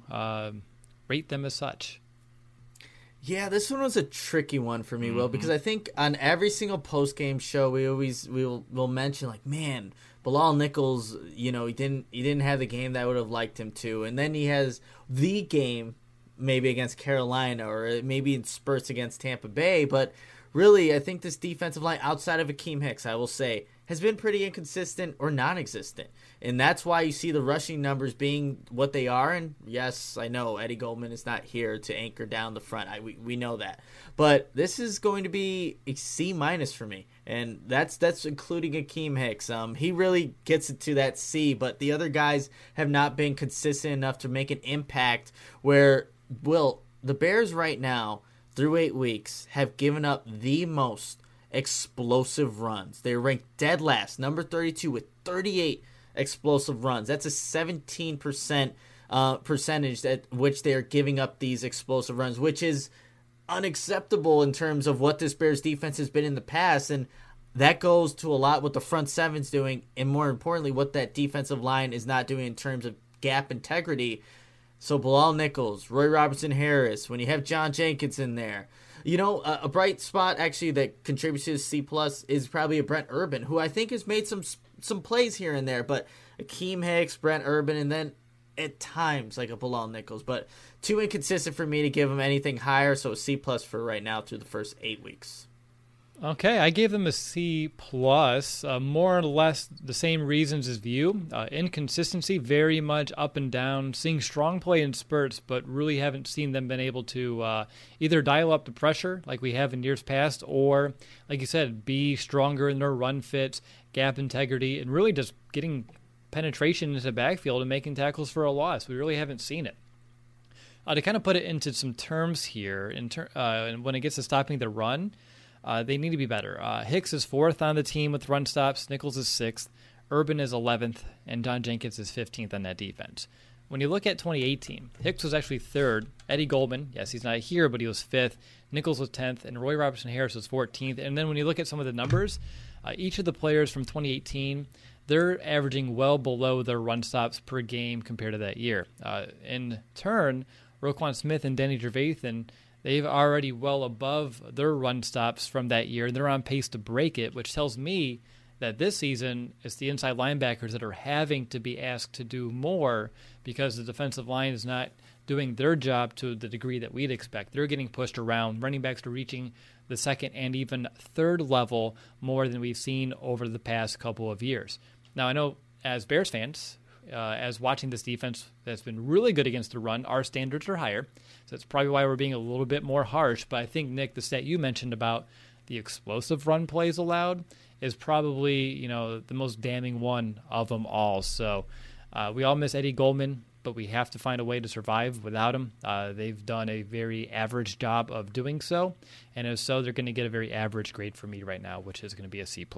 rate them as such? Yeah, this one was a tricky one for me, Will, because I think on every single post-game show we'll mention, like, man, Bilal Nichols, he didn't have the game that I would have liked him to, and then he has the game maybe against Carolina or maybe in spurts against Tampa Bay. But really, I think this defensive line, outside of Akeem Hicks, I will say, has been pretty inconsistent or non-existent. And that's why you see the rushing numbers being what they are. And yes, I know Eddie Goldman is not here to anchor down the front. We know that. But this is going to be a C- for me. And that's including Akeem Hicks. He really gets it to that C, but the other guys have not been consistent enough to make an impact where, Will, the Bears right now, through 8 weeks, have given up the most explosive runs. They're ranked dead last, number 32, with 38 explosive runs. That's a 17% percentage at which they are giving up these explosive runs, which is unacceptable in terms of what this Bears defense has been in the past. And that goes to a lot what the front seven's doing, and more importantly, what that defensive line is not doing in terms of gap integrity. So Bilal Nichols, Roy Robertson Harris, when you have John Jenkins in there, a bright spot actually that contributes to C+ is probably a Brent Urban, who I think has made some plays here and there, but Akeem Hicks, Brent Urban, and then at times like a Bilal Nichols, but too inconsistent for me to give him anything higher, so a C+ for right now through the first 8 weeks. Okay, I gave them a C+, more or less the same reasons as you. Inconsistency, very much up and down, seeing strong play in spurts, but really haven't seen them been able to either dial up the pressure like we have in years past, or, like you said, be stronger in their run fits, gap integrity, and really just getting penetration into the backfield and making tackles for a loss. We really haven't seen it. To kind of put it into some terms here, when it gets to stopping the run, they need to be better. Hicks is 4th on the team with run stops. Nichols is 6th. Urban is 11th. And John Jenkins is 15th on that defense. When you look at 2018, Hicks was actually 3rd. Eddie Goldman, yes, he's not here, but he was 5th. Nichols was 10th. And Roy Robertson Harris was 14th. And then when you look at some of the numbers, each of the players from 2018, they're averaging well below their run stops per game compared to that year. In turn, Roquan Smith and Danny Trevathan, they've already well above their run stops from that year. They're on pace to break it, which tells me that this season it's the inside linebackers that are having to be asked to do more because the defensive line is not doing their job to the degree that we'd expect. They're getting pushed around. Running backs are reaching the second and even third level more than we've seen over the past couple of years. Now, I know as Bears fans, as watching this defense that's been really good against the run, our standards are higher. So that's probably why we're being a little bit more harsh. But I think, Nick, the stat you mentioned about the explosive run plays allowed is probably, the most damning one of them all. So we all miss Eddie Goldman, but we have to find a way to survive without him. They've done a very average job of doing so. And as so, they're going to get a very average grade for me right now, which is going to be a C+.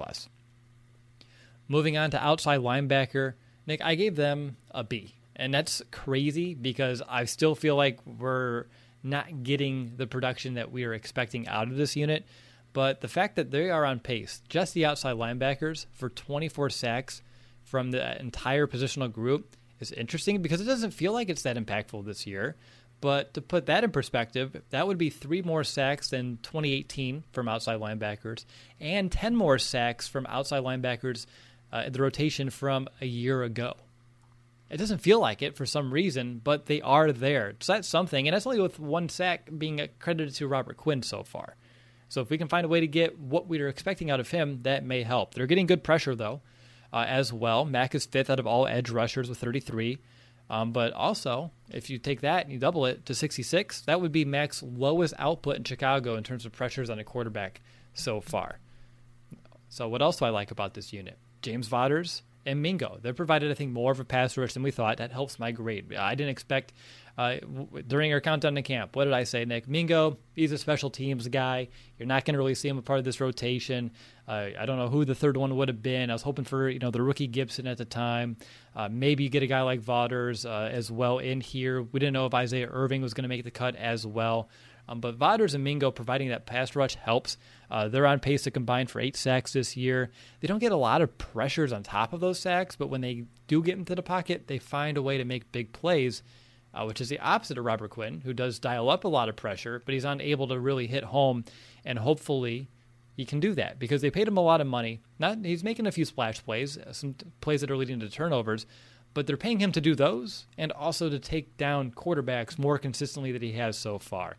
Moving on to outside linebacker, Nick, I gave them a B. And that's crazy because I still feel like we're not getting the production that we are expecting out of this unit. But the fact that they are on pace, just the outside linebackers, for 24 sacks from the entire positional group is interesting because it doesn't feel like it's that impactful this year. But to put that in perspective, that would be 3 more sacks than 2018 from outside linebackers and 10 more sacks from outside linebackers in the rotation from a year ago. It doesn't feel like it for some reason, but they are there. So that's something, and that's only with 1 sack being credited to Robert Quinn so far. So if we can find a way to get what we are expecting out of him, that may help. They're getting good pressure, though, as well. Mack is 5th out of all edge rushers with 33. But also, if you take that and you double it to 66, that would be Mack's lowest output in Chicago in terms of pressures on a quarterback so far. So what else do I like about this unit? James Vaughters and Mingo. They're provided, I think, more of a pass rush than we thought. That helps my grade. I didn't expect, during our countdown to camp, what did I say, Nick? Mingo, he's a special teams guy. You're not going to really see him a part of this rotation. I don't know who the third one would have been. I was hoping for, the rookie Gibson at the time. Maybe you get a guy like Vaughters as well in here. We didn't know if Isaiah Irving was going to make the cut as well. But Vaughters and Mingo providing that pass rush helps. They're on pace to combine for 8 sacks this year. They don't get a lot of pressures on top of those sacks, but when they do get into the pocket, they find a way to make big plays, which is the opposite of Robert Quinn, who does dial up a lot of pressure, but he's unable to really hit home, and hopefully he can do that because they paid him a lot of money. He's making a few splash plays, some plays that are leading to turnovers, but they're paying him to do those and also to take down quarterbacks more consistently than he has so far.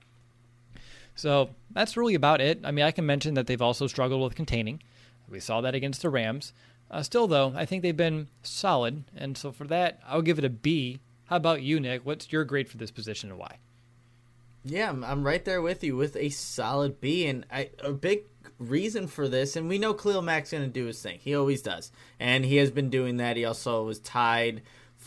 So that's really about it. I mean, I can mention that they've also struggled with containing. We saw that against the Rams. Still, though, I think they've been solid, and so for that, I'll give it a B. How about you, Nick? What's your grade for this position and why? Yeah, I'm right there with you with a solid B, and a big reason for this, and we know Khalil Mack's going to do his thing. He always does, and he has been doing that. He also was tied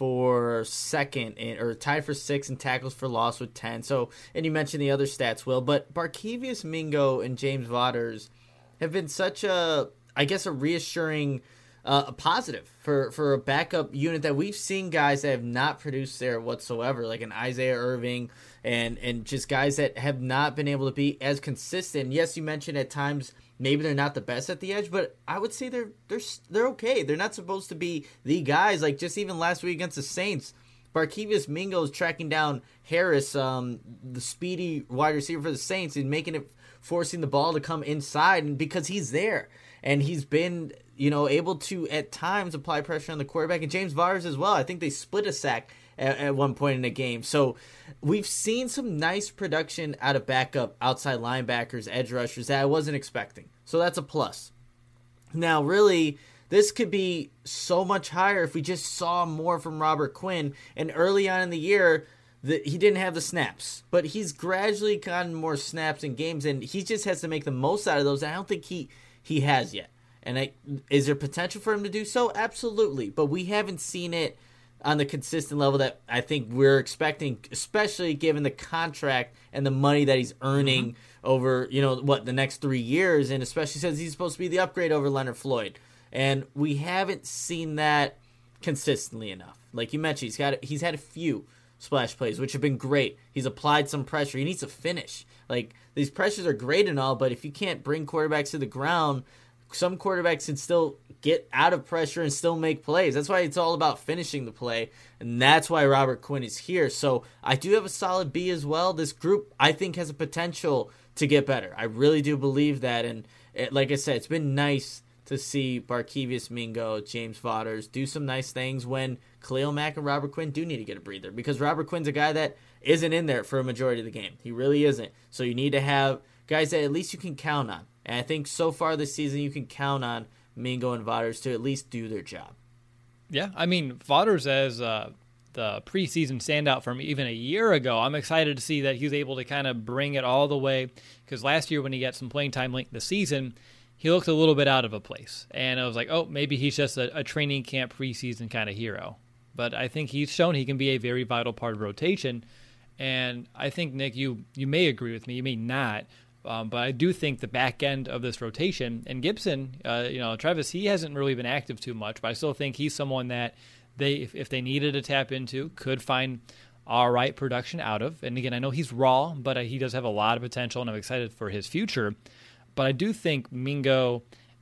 for second, or tied for 6 in tackles for loss with 10. So, and you mentioned the other stats, Will, but Barkevious Mingo and James Waters have been such a reassuring a positive for a backup unit that we've seen guys that have not produced there whatsoever, like an Isaiah Irving and just guys that have not been able to be as consistent. Yes, you mentioned at times maybe they're not the best at the edge, but I would say they're okay. They're not supposed to be the guys. Like just even last week against the Saints, Barkevious Mingo is tracking down Harris, the speedy wide receiver for the Saints, and forcing the ball to come inside, and because he's there. And he's been, able to, at times, apply pressure on the quarterback. And James Waters as well. I think they split a sack at one point in the game. So we've seen some nice production out of backup outside linebackers, edge rushers that I wasn't expecting. So that's a plus. Now, really, this could be so much higher if we just saw more from Robert Quinn. And early on in the year, he didn't have the snaps. But he's gradually gotten more snaps in games, and he just has to make the most out of those. And I don't think he has yet. And is there potential for him to do so? Absolutely. But we haven't seen it on the consistent level that I think we're expecting, especially given the contract and the money that he's earning over, the next 3 years, and especially since he's supposed to be the upgrade over Leonard Floyd. And we haven't seen that consistently enough. Like you mentioned, he's had a few splash plays, which have been great. He's applied some pressure. He needs to finish. Like, these pressures are great and all, but if you can't bring quarterbacks to the ground, some quarterbacks can still get out of pressure and still make plays. That's why it's all about finishing the play, and that's why Robert Quinn is here. So I do have a solid B as well. This group, I think, has a potential to get better. I really do believe that, and like I said, it's been nice to see Barkevious Mingo, James Waters do some nice things when Khalil Mack and Robert Quinn do need to get a breather, because Robert Quinn's a guy that isn't in there for a majority of the game. He really isn't. So you need to have guys that at least you can count on. And I think so far this season you can count on Mingo and Waters to at least do their job. Yeah, I mean, Waters as the preseason standout from even a year ago, I'm excited to see that he's able to kind of bring it all the way, because last year when he got some playing time late in the season, he looked a little bit out of a place. And I was like, oh, maybe he's just a training camp preseason kind of hero. But I think he's shown he can be a very vital part of rotation. And I think, Nick, you may agree with me, you may not, but I do think the back end of this rotation, and Gibson, Travis, he hasn't really been active too much, but I still think he's someone that if they needed to tap into, could find all right production out of. And again, I know he's raw, but he does have a lot of potential, and I'm excited for his future. But I do think Mingo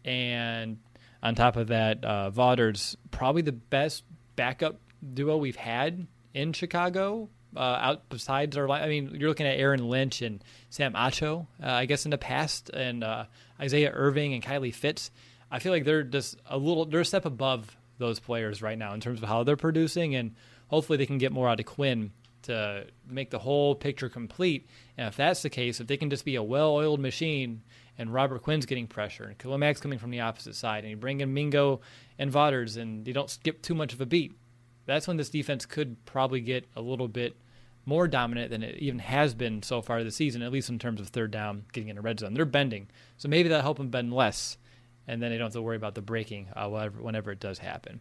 and on top of that, Waters, probably the best backup duo we've had in Chicago. Out besides our line, I mean, you're looking at Aaron Lynch and Sam Acho, I guess in the past, and Isaiah Irving and Kylie Fitz. I feel like they're just they're a step above those players right now in terms of how they're producing, and hopefully they can get more out of Quinn to make the whole picture complete. And if that's the case, if they can just be a well-oiled machine, and Robert Quinn's getting pressure, and Khalil Mack's coming from the opposite side, and you bring in Mingo and Waters, and you don't skip too much of a beat, that's when this defense could probably get a little bit more dominant than it even has been so far this season, at least in terms of third down, getting in a red zone. They're bending, so maybe that'll help them bend less, and then they don't have to worry about the breaking whenever it does happen.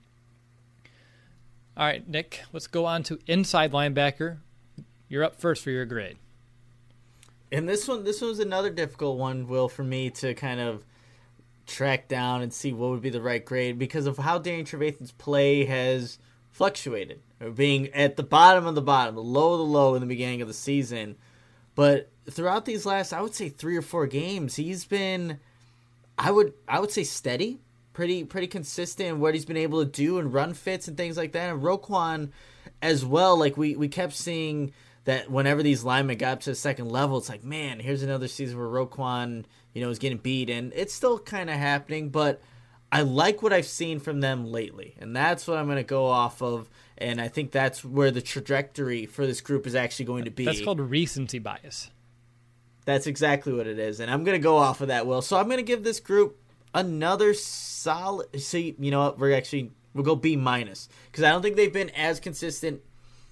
All right, Nick, let's go on to inside linebacker. You're up first for your grade. And this one was another difficult one, Will, for me to kind of track down and see what would be the right grade because of how Darian Trevathan's play has fluctuated, being at the bottom of the bottom, the low of the low in the beginning of the season. But throughout these last, I would say 3 or 4 games, he's been, I would say steady, pretty consistent in what he's been able to do and run fits and things like that. And Roquan as well, like we kept seeing that whenever these linemen got up to the second level, it's like, man, here's another season where Roquan, is getting beat. And it's still kind of happening, but I like what I've seen from them lately, and that's what I'm going to go off of. And I think that's where the trajectory for this group is actually going to be. That's called recency bias. That's exactly what it is, and I'm going to go off of that, Will. So I'm going to give this group another solid. See, you know what? We'll go B minus because I don't think they've been as consistent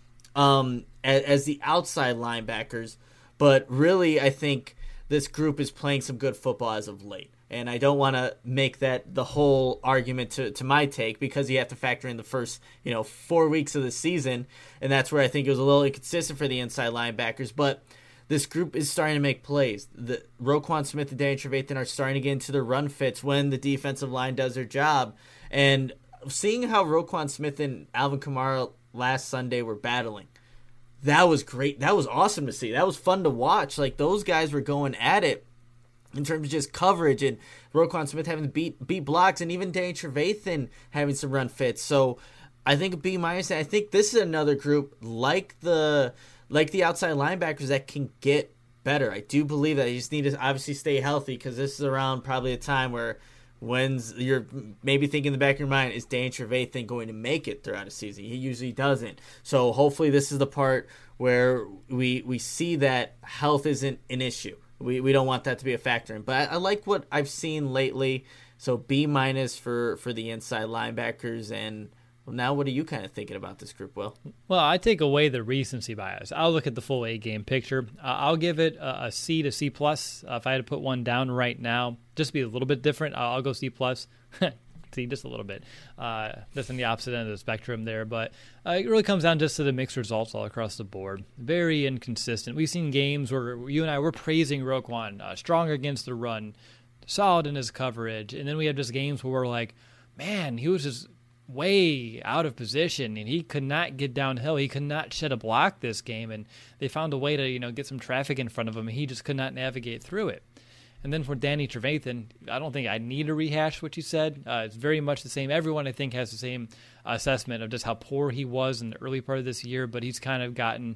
as the outside linebackers, but really I think this group is playing some good football as of late. And I don't want to make that the whole argument to my take because you have to factor in the first 4 weeks of the season, and that's where I think it was a little inconsistent for the inside linebackers. But this group is starting to make plays. The Roquan Smith and Danny Trevathan are starting to get into the run fits when the defensive line does their job. And seeing how Roquan Smith and Alvin Kamara last Sunday were battling, that was great. That was awesome to see. That was fun to watch. Like, those guys were going at it in terms of just coverage, and Roquan Smith having to beat blocks, and even Danny Trevathan having some run fits. So I think a B minus. I think this is another group like the outside linebackers that can get better. I do believe that you just need to obviously stay healthy because this is around probably a time where you're maybe thinking in the back of your mind, is Danny Trevathan going to make it throughout a season? He usually doesn't. So hopefully this is the part where we see that health isn't an issue. We don't want that to be a factor in. But I like what I've seen lately. So B minus for the inside linebackers. And now what are you kind of thinking about this group, Will? Well, I take away the recency bias. I'll look at the full 8-game picture. I'll give it a C to C+. If I had to put one down right now, just to be a little bit different, I'll go C+. See, just a little bit. That's on the opposite end of the spectrum there. But it really comes down just to the mixed results all across the board. Very inconsistent. We've seen games where you and I were praising Roquan, strong against the run, solid in his coverage. And then we have just games where we're like, man, he was just way out of position, and he could not get downhill. He could not shed a block this game, and they found a way to get some traffic in front of him, and he just could not navigate through it. And then for Danny Trevathan, I don't think I need to rehash what you said. It's very much the same. Everyone, I think, has the same assessment of just how poor he was in the early part of this year, but he's kind of gotten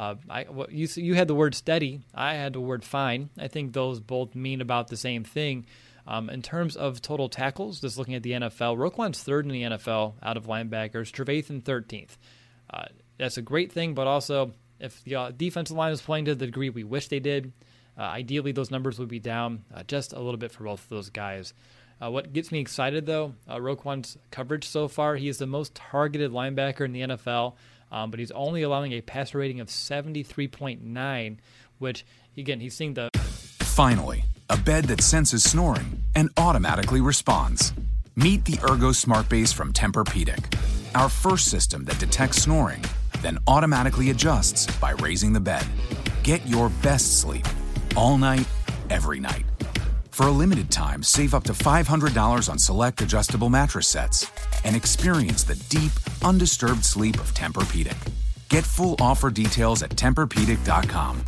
you had the word steady. I had the word fine. I think those both mean about the same thing. In terms of total tackles, just looking at the NFL, Roquan's third in the NFL out of linebackers, Trevathan 13th. That's a great thing, but also if the defensive line is playing to the degree we wish they did, ideally those numbers would be down just a little bit for both of those guys. What gets me excited, though, Roquan's coverage so far, he is the most targeted linebacker in the NFL, but he's only allowing a passer rating of 73.9, which, again, he's seeing the... Finally, a bed that senses snoring and automatically responds. Meet the Ergo Smart Base from Tempur-Pedic, our first system that detects snoring, then automatically adjusts by raising the bed. Get your best sleep all night, every night. For a limited time, save up to $500 on select adjustable mattress sets and experience the deep, undisturbed sleep of Tempur-Pedic. Get full offer details at TempurPedic.com.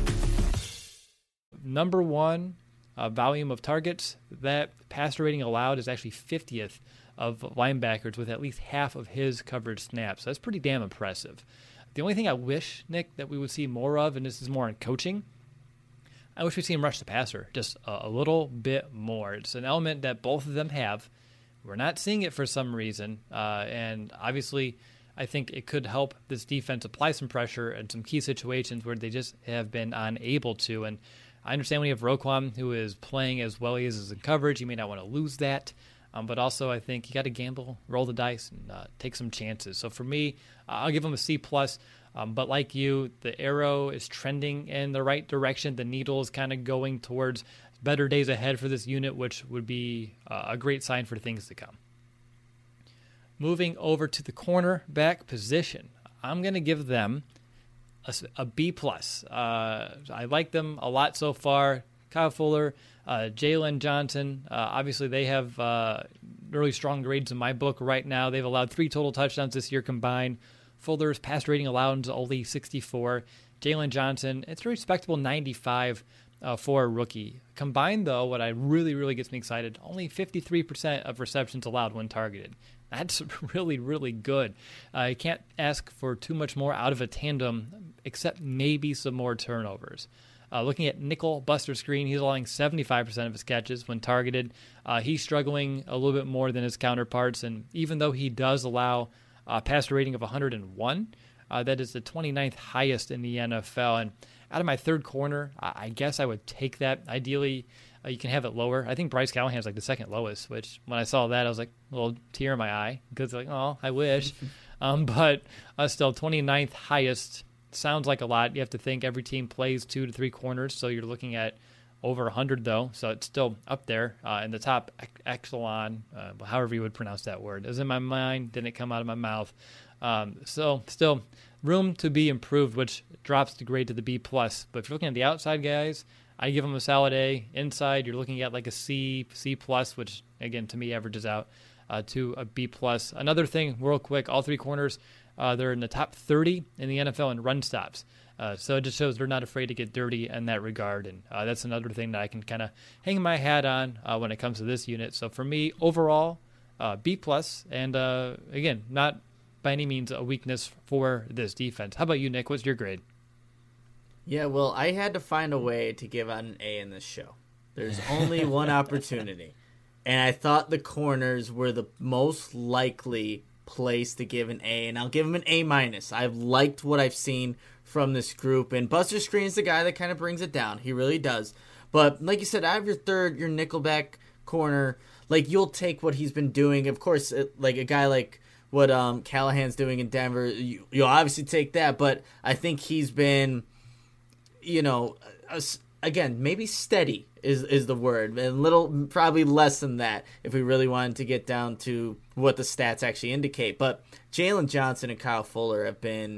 Number one, volume of targets. That passer rating allowed is actually 50th of linebackers with at least half of his coverage snaps. So that's pretty damn impressive. The only thing I wish, Nick, that we would see more of, and this is more in coaching, I wish we'd see him rush the passer just a little bit more. It's an element that both of them have. We're not seeing it for some reason, and obviously I think it could help this defense apply some pressure in some key situations where they just have been unable to. And I understand when you have Roquan, who is playing as well as he is in coverage, you may not want to lose that. But also I think you got to gamble, roll the dice, and take some chances. So for me, I'll give him a C+. But like you, the arrow is trending in the right direction. The needle is kind of going towards better days ahead for this unit, which would be a great sign for things to come. Moving over to the cornerback position, I'm going to give them a B+. I like them a lot so far. Kyle Fuller, Jalen Johnson, obviously they have really strong grades in my book right now. They've allowed 3 total touchdowns this year combined. Fuller's pass rating allowed is only 64. Jalen Johnson, it's a respectable 95 for a rookie. Combined, though, what I really gets me excited, only 53% of receptions allowed when targeted. That's really, really good. You can't ask for too much more out of a tandem, except maybe some more turnovers. Looking at nickel buster screen, he's allowing 75% of his catches when targeted. He's struggling a little bit more than his counterparts, and even though he does allow a passer rating of 101, that is the 29th highest in the NFL. And out of my third corner, I guess I would take that. Ideally, you can have it lower. I think Bryce Callahan's like the second lowest, which when I saw that, I was like, a little tear in my eye because like, oh, I wish. But still, 29th highest sounds like a lot. You have to think every team plays 2 to 3 corners, so you're looking at over 100 though, so it's still up there in the top echelon, however you would pronounce that word. It was in my mind, didn't come out of my mouth. So still room to be improved, which drops the grade to the B+. But if you're looking at the outside guys, I give them a solid A. Inside, you're looking at like a C+, which again to me averages out to a B+. Another thing, real quick, all 3 corners, they're in the top 30 in the NFL in run stops. So it just shows they're not afraid to get dirty in that regard. And that's another thing that I can kind of hang my hat on when it comes to this unit. So for me, overall, B+. And again, not by any means a weakness for this defense. How about you, Nick? What's your grade? Yeah, well, I had to find a way to give out an A in this show. There's only one opportunity. And I thought the corners were the most likely place to give an A, and I'll give him an A-. I've liked what I've seen from this group, and Buster Screen's the guy that kind of brings it down. He really does. But like you said, I have your third, your nickelback corner. Like, you'll take what he's been doing. Of course, like a guy like what Callahan's doing in Denver, you'll obviously take that. But I think he's been, again, maybe steady is the word, and probably less than that if we really wanted to get down to what the stats actually indicate. But Jalen Johnson and Kyle Fuller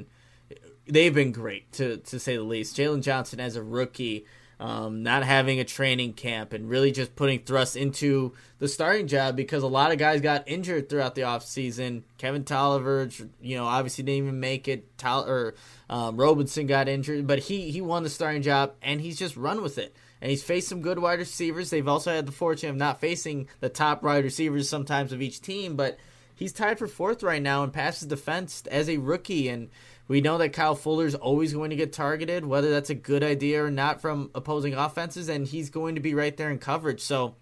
they've been great to say the least. Jalen Johnson as a rookie, not having a training camp and really just putting thrust into the starting job because a lot of guys got injured throughout the offseason. Kevin Tolliver, obviously didn't even make it. Robinson got injured, but he won the starting job, and he's just run with it. And he's faced some good wide receivers. They've also had the fortune of not facing the top wide receivers sometimes of each team, but he's tied for 4th right now in passes defense as a rookie, and we know that Kyle Fuller's always going to get targeted, whether that's a good idea or not from opposing offenses, and he's going to be right there in coverage. So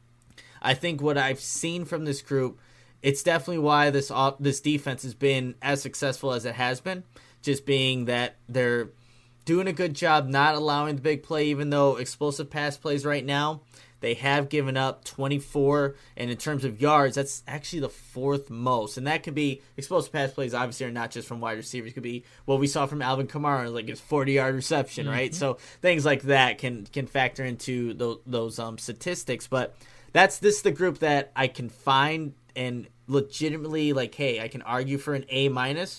I think what I've seen from this group, it's definitely why this defense has been as successful as it has been, just being that they're doing a good job not allowing the big play, even though explosive pass plays right now, they have given up 24, and in terms of yards, that's actually the 4th most. And that could be explosive pass plays, obviously, are not just from wide receivers. It could be what we saw from Alvin Kamara, like his 40-yard reception, right? So things like that can factor into those statistics. But this is the group that I can find and legitimately, like, hey, I can argue for an A-.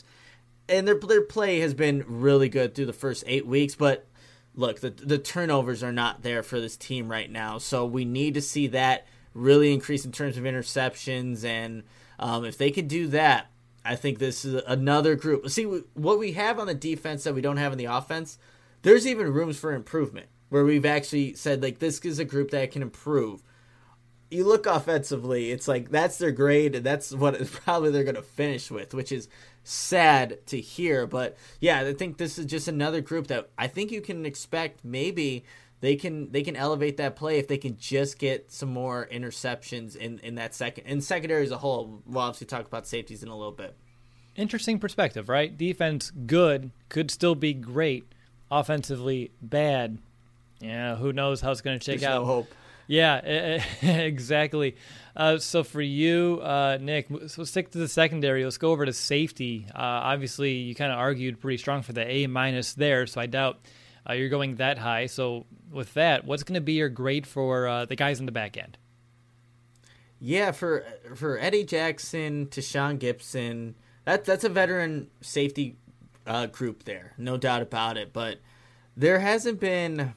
And their play has been really good through the first 8 weeks, but look, the turnovers are not there for this team right now, so we need to see that really increase in terms of interceptions, and if they could do that, I think this is another group. See, what we have on the defense that we don't have in the offense, there's even rooms for improvement, where we've actually said, like, this is a group that can improve. You look offensively, it's like that's their grade, and that's what probably they're going to finish with, which is sad to hear. But yeah, I think this is just another group that I think you can expect maybe they can elevate that play if they can just get some more interceptions in that secondary as a whole. We'll obviously talk about safeties in a little bit. Interesting perspective, right? Defense good, could still be great. Offensively bad. Yeah, who knows how it's going to shake out. No hope. Yeah, exactly. So for you, Nick, so stick to the secondary. Let's go over to safety. Obviously, you kind of argued pretty strong for the A- there, so I doubt you're going that high. So with that, what's going to be your grade for the guys in the back end? Yeah, for Eddie Jackson, Tashaun Gibson, that's a veteran safety group there, no doubt about it. But there's been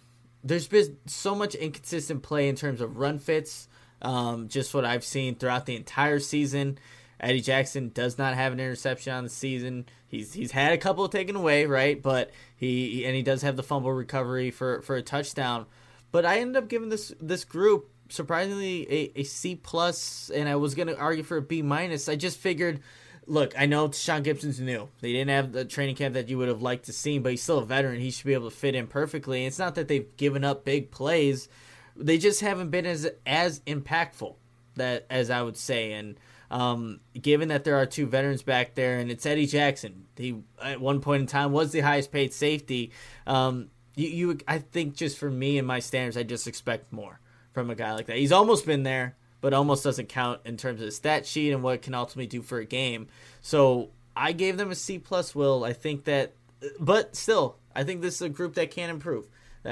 so much inconsistent play in terms of run fits, just what I've seen throughout the entire season. Eddie Jackson does not have an interception on the season. He's had a couple taken away, right? But he does have the fumble recovery for a touchdown. But I ended up giving this group surprisingly a C+, and I was going to argue for a B-. I just figured look, I know Sean Gibson's new. They didn't have the training camp that you would have liked to see, but he's still a veteran. He should be able to fit in perfectly. And it's not that they've given up big plays. They just haven't been as impactful, as I would say. And given that there are two veterans back there, and it's Eddie Jackson, he at one point in time was the highest paid safety. I think just for me and my standards, I just expect more from a guy like that. He's almost been there, but almost doesn't count in terms of the stat sheet and what it can ultimately do for a game. So I gave them a C+, Will. I think that, but still, I think this is a group that can improve.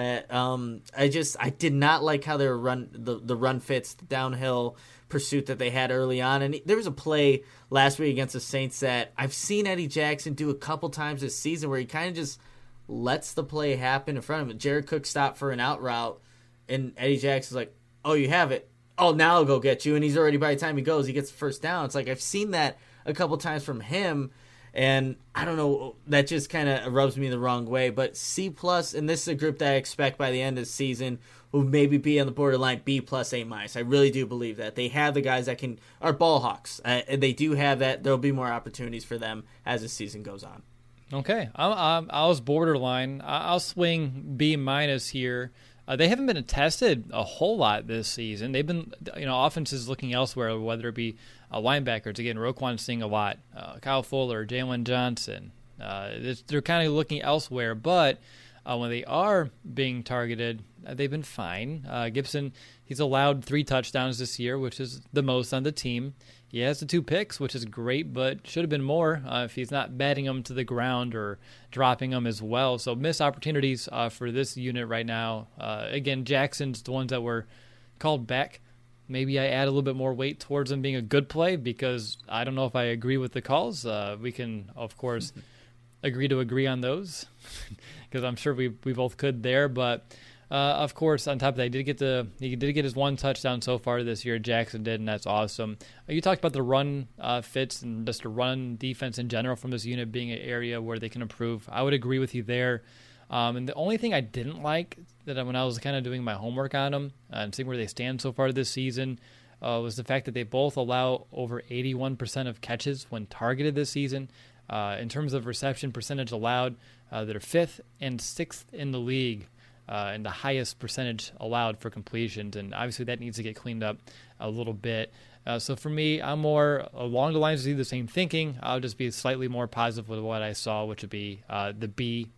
I did not like how they were the run fits, the downhill pursuit that they had early on. And there was a play last week against the Saints that I've seen Eddie Jackson do a couple times this season where he kind of just lets the play happen in front of him. Jared Cook stopped for an out route, and Eddie Jackson's like, oh, you have it. Oh, now I'll go get you. And he's already, by the time he goes, he gets the first down. It's like I've seen that a couple times from him, and I don't know, that just kind of rubs me the wrong way. But C+, and this is a group that I expect by the end of the season will maybe be on the borderline B+, A-. I really do believe that. They have the guys that are ball hawks. They do have that. There'll be more opportunities for them as the season goes on. Okay, I was borderline. I'll swing B- here. They haven't been tested a whole lot this season. They've been, offenses looking elsewhere, whether it be linebackers. Again, Roquan Singh a lot, Kyle Fuller, Jalen Johnson. They're kind of looking elsewhere, but when they are being targeted, they've been fine. Gibson, he's allowed 3 touchdowns this year, which is the most on the team. He has the 2 picks, which is great, but should have been more if he's not batting them to the ground or dropping them as well. So missed opportunities for this unit right now. Again, Jackson's the ones that were called back. Maybe I add a little bit more weight towards them being a good play because I don't know if I agree with the calls. We can, of course, agree on those because I'm sure we both could there, but... of course, on top of that, he did get his 1 touchdown so far this year. Jackson did, and that's awesome. You talked about the run fits and just the run defense in general from this unit being an area where they can improve. I would agree with you there. And the only thing I didn't like that when I was kind of doing my homework on them and seeing where they stand so far this season was the fact that they both allow over 81% of catches when targeted this season. In terms of reception percentage allowed, they're 5th and 6th in the league. And the highest percentage allowed for completions, and obviously that needs to get cleaned up a little bit. So for me, I'm more along the lines of the same thinking. I'll just be slightly more positive with what I saw, which would be the B-.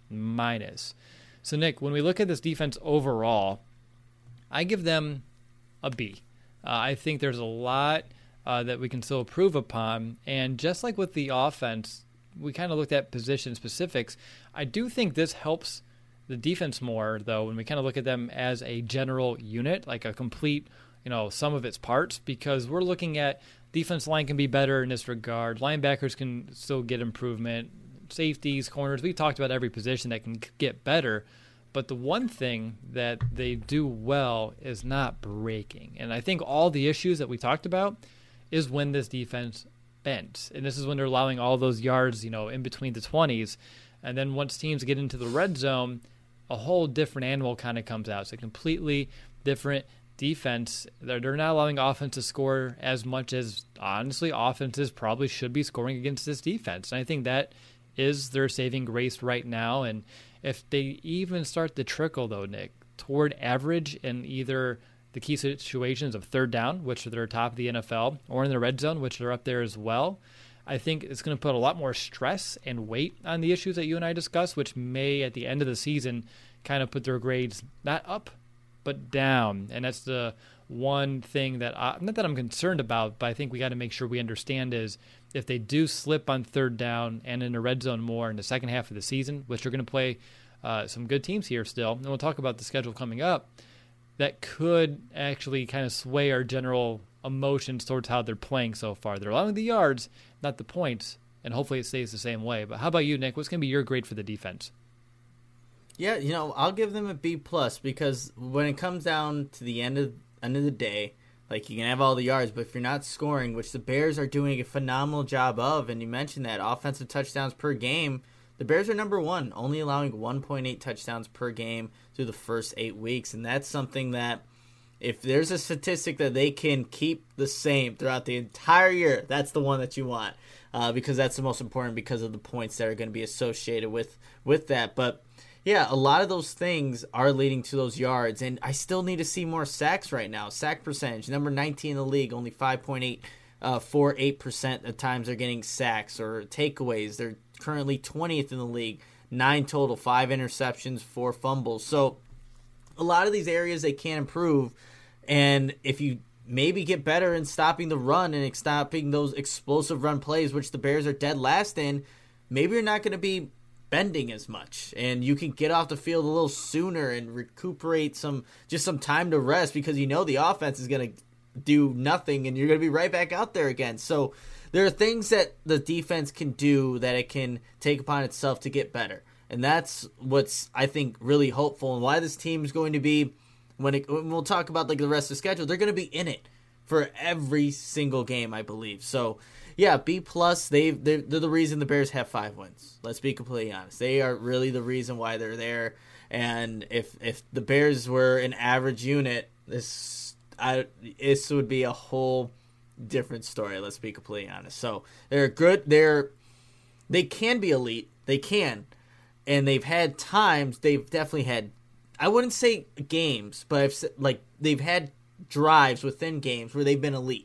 So Nick, when we look at this defense overall, I give them a B. I think there's a lot that we can still improve upon, and just like with the offense, we kind of looked at position specifics. I do think this helps the defense more, though, when we kind of look at them as a general unit, like a complete, sum of its parts, because we're looking at defense line can be better in this regard. Linebackers can still get improvement. Safeties, corners, we talked about every position that can get better. But the one thing that they do well is not breaking. And I think all the issues that we talked about is when this defense bends. And this is when they're allowing all those yards, in between the 20s. And then once teams get into the red zone, a whole different animal kind of comes out. It's a completely different defense. They're not allowing offense to score as much as, honestly, offenses probably should be scoring against this defense. And I think that is their saving grace right now. And if they even start to trickle, though, Nick, toward average in either the key situations of 3rd down, which they're top of the NFL, or in the red zone, which they're up there as well, I think it's going to put a lot more stress and weight on the issues that you and I discussed, which may, at the end of the season, kind of put their grades not up, but down. And that's the one thing that, not that I'm concerned about, but I think we got to make sure we understand is if they do slip on 3rd down and in the red zone more in the second half of the season, which they're going to play some good teams here still, and we'll talk about the schedule coming up, that could actually kind of sway our general emotions towards how they're playing so far. They're allowing the yards, not the points, and hopefully it stays the same way. But how about you, Nick? What's going to be your grade for the defense? Yeah, I'll give them a B+ because when it comes down to the end of the day, like you can have all the yards, but if you're not scoring, which the Bears are doing a phenomenal job of, and you mentioned that offensive touchdowns per game, the Bears are number 1, only allowing 1.8 touchdowns per game through the first 8 weeks, and that's something that If there's a statistic that they can keep the same throughout the entire year, that's the one that you want, because that's the most important because of the points that are going to be associated with that. But yeah, a lot of those things are leading to those yards, and I still need to see more sacks right now. Sack percentage, number 19 in the league, only 5.48% of times they're getting sacks or takeaways. They're currently 20th in the league, 9 total, 5 interceptions, 4 fumbles. So a lot of these areas they can improve, and if you maybe get better in stopping the run and stopping those explosive run plays, which the Bears are dead last in, maybe you're not going to be bending as much, and you can get off the field a little sooner and recuperate some time to rest, because you know the offense is going to do nothing and you're going to be right back out there again. So there are things that the defense can do that it can take upon itself to get better, and that's what's, I think, really hopeful, and why this team is going to be, when we'll talk about like the rest of the schedule, they're going to be in it for every single game, I believe. So yeah, B+, they're the reason the Bears have 5 wins. Let's be completely honest. They are really the reason why they're there. And if the Bears were an average unit, this would be a whole different story. Let's be completely honest. So they're good. They can be elite. They can, and they've had times. They've definitely had, I wouldn't say games, but they've had drives within games where they've been elite.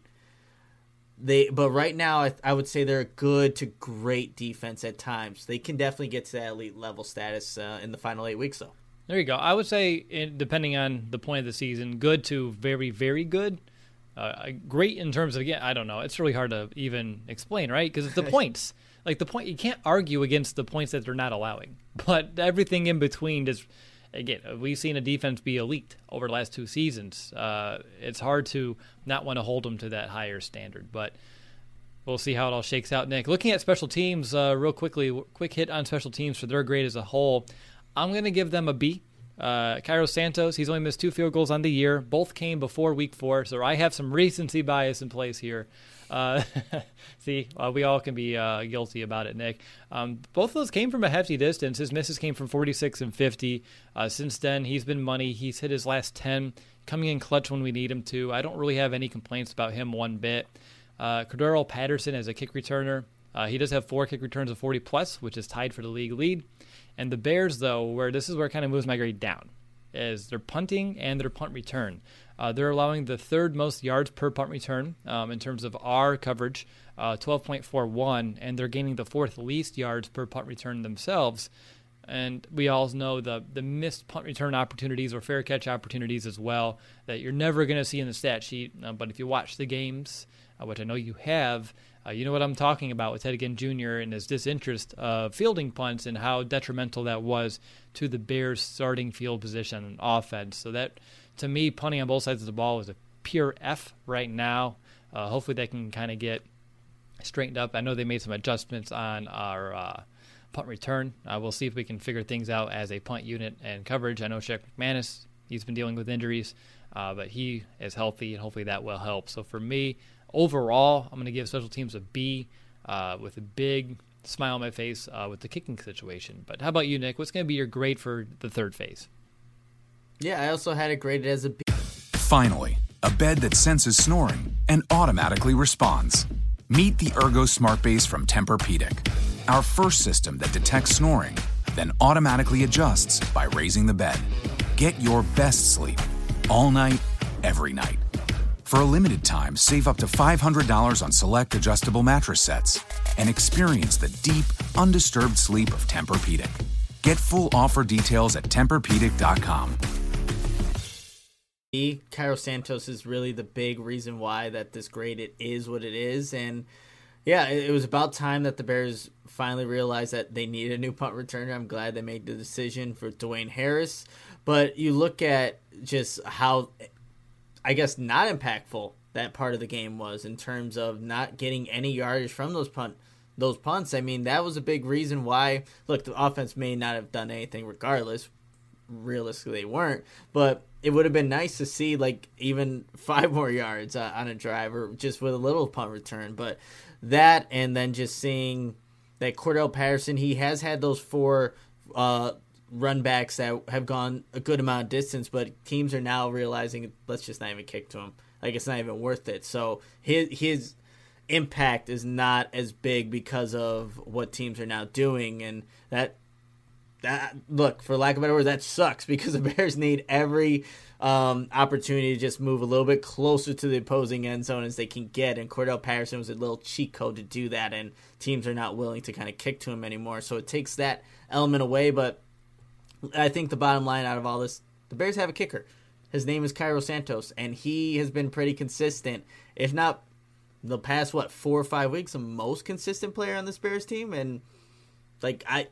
But right now, I would say they're a good to great defense at times. They can definitely get to that elite level status in the final 8 weeks, though. There you go. I would say, depending on the point of the season, good to very, very good. Great in terms of, again, I don't know. It's really hard to even explain, right? Because it's the points. Like the point, you can't argue against the points that they're not allowing. But everything in between is, again, we've seen a defense be elite over the last 2 seasons. It's hard to not want to hold them to that higher standard, but we'll see how it all shakes out, Nick. Looking at special teams real quickly, quick hit on special teams for their grade as a whole. I'm going to give them a B. Cairo Santos, he's only missed 2 field goals on the year. Both came before week 4, so I have some recency bias in place here. See, we all can be guilty about it, Nick. Both of those came from a hefty distance. His misses came from 46 and 50. Since then, he's been money. He's hit his last 10, coming in clutch when we need him to. I don't really have any complaints about him one bit. Cordero Patterson as a kick returner. He does have 4 kick returns of 40+, which is tied for the league lead. And the Bears, though, this is where it kind of moves my grade down, is their punting and their punt return. They're allowing the 3rd most yards per punt return in terms of our coverage, 12.41, and they're gaining the 4th least yards per punt return themselves. And we all know the missed punt return opportunities or fair catch opportunities as well that you're never going to see in the stat sheet. But if you watch the games, which I know you have, you know what I'm talking about with Ted Ginn Jr. and his disinterest of fielding punts and how detrimental that was to the Bears' starting field position and offense. So that, to me, punting on both sides of the ball is a pure F right now. Hopefully they can kind of get straightened up. I know they made some adjustments on our punt return. We'll see if we can figure things out as a punt unit and coverage. I know Shaq McManus, he's been dealing with injuries, but he is healthy, and hopefully that will help. So for me, overall, I'm going to give special teams a B with a big smile on my face with the kicking situation. But how about you, Nick? What's going to be your grade for the 3rd phase? Yeah, I also had it graded as a B. Finally, a bed that senses snoring and automatically responds. Meet the Ergo Smart Base from Tempur-Pedic, our first system that detects snoring, then automatically adjusts by raising the bed. Get your best sleep all night, every night. For a limited time, save up to $500 on select adjustable mattress sets and experience the deep, undisturbed sleep of Tempur-Pedic. Get full offer details at TempurPedic.com. Cairo Santos is really the big reason why that this grade is what it is. And yeah, it was about time that the Bears finally realized that they needed a new punt returner. I'm glad they made the decision for Dwayne Harris. But you look at just how, I guess, not impactful that part of the game was in terms of not getting any yardage from those punts. I mean, that was a big reason why. Look, the offense may not have done anything regardless. Realistically, they weren't. But it would have been nice to see like even 5 more yards on a drive or just with a little punt return. But that, and then just seeing that Cordell Patterson, he has had those 4 run backs that have gone a good amount of distance, but teams are now realizing let's just not even kick to him. Like, it's not even worth it. So his impact is not as big because of what teams are now doing, and that look, for lack of a better word, that sucks because the Bears need every opportunity to just move a little bit closer to the opposing end zone as they can get, and Cordell Patterson was a little cheat code to do that, and teams are not willing to kind of kick to him anymore, so it takes that element away. But I think the bottom line out of all this, the Bears have a kicker. His name is Cairo Santos, and he has been pretty consistent, if not the past, 4 or 5 weeks, the most consistent player on this Bears team. And I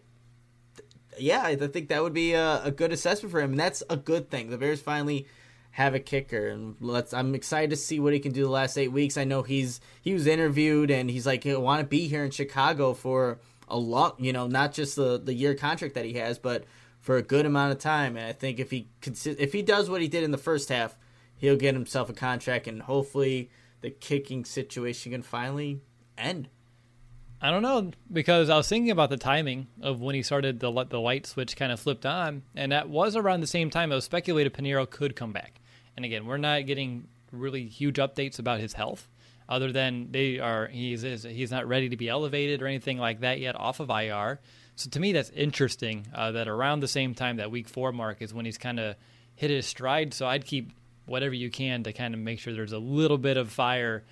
think that would be a good assessment for him, and that's a good thing. The Bears finally have a kicker, and I'm excited to see what he can do the last 8 weeks. I know he was interviewed, and he's like, I want to be here in Chicago for a long, not just the year contract that he has, but for a good amount of time. And I think if he does what he did in the first half, he'll get himself a contract, and hopefully the kicking situation can finally end. I don't know, because I was thinking about the timing of when he started the light switch kind of flipped on, and that was around the same time it was speculated Pineiro could come back. And again, we're not getting really huge updates about his health, other than he's not ready to be elevated or anything like that yet off of IR. So to me, that's interesting that around the same time, that week 4 mark, is when he's kind of hit his stride. So I'd keep whatever you can to kind of make sure there's a little bit of fire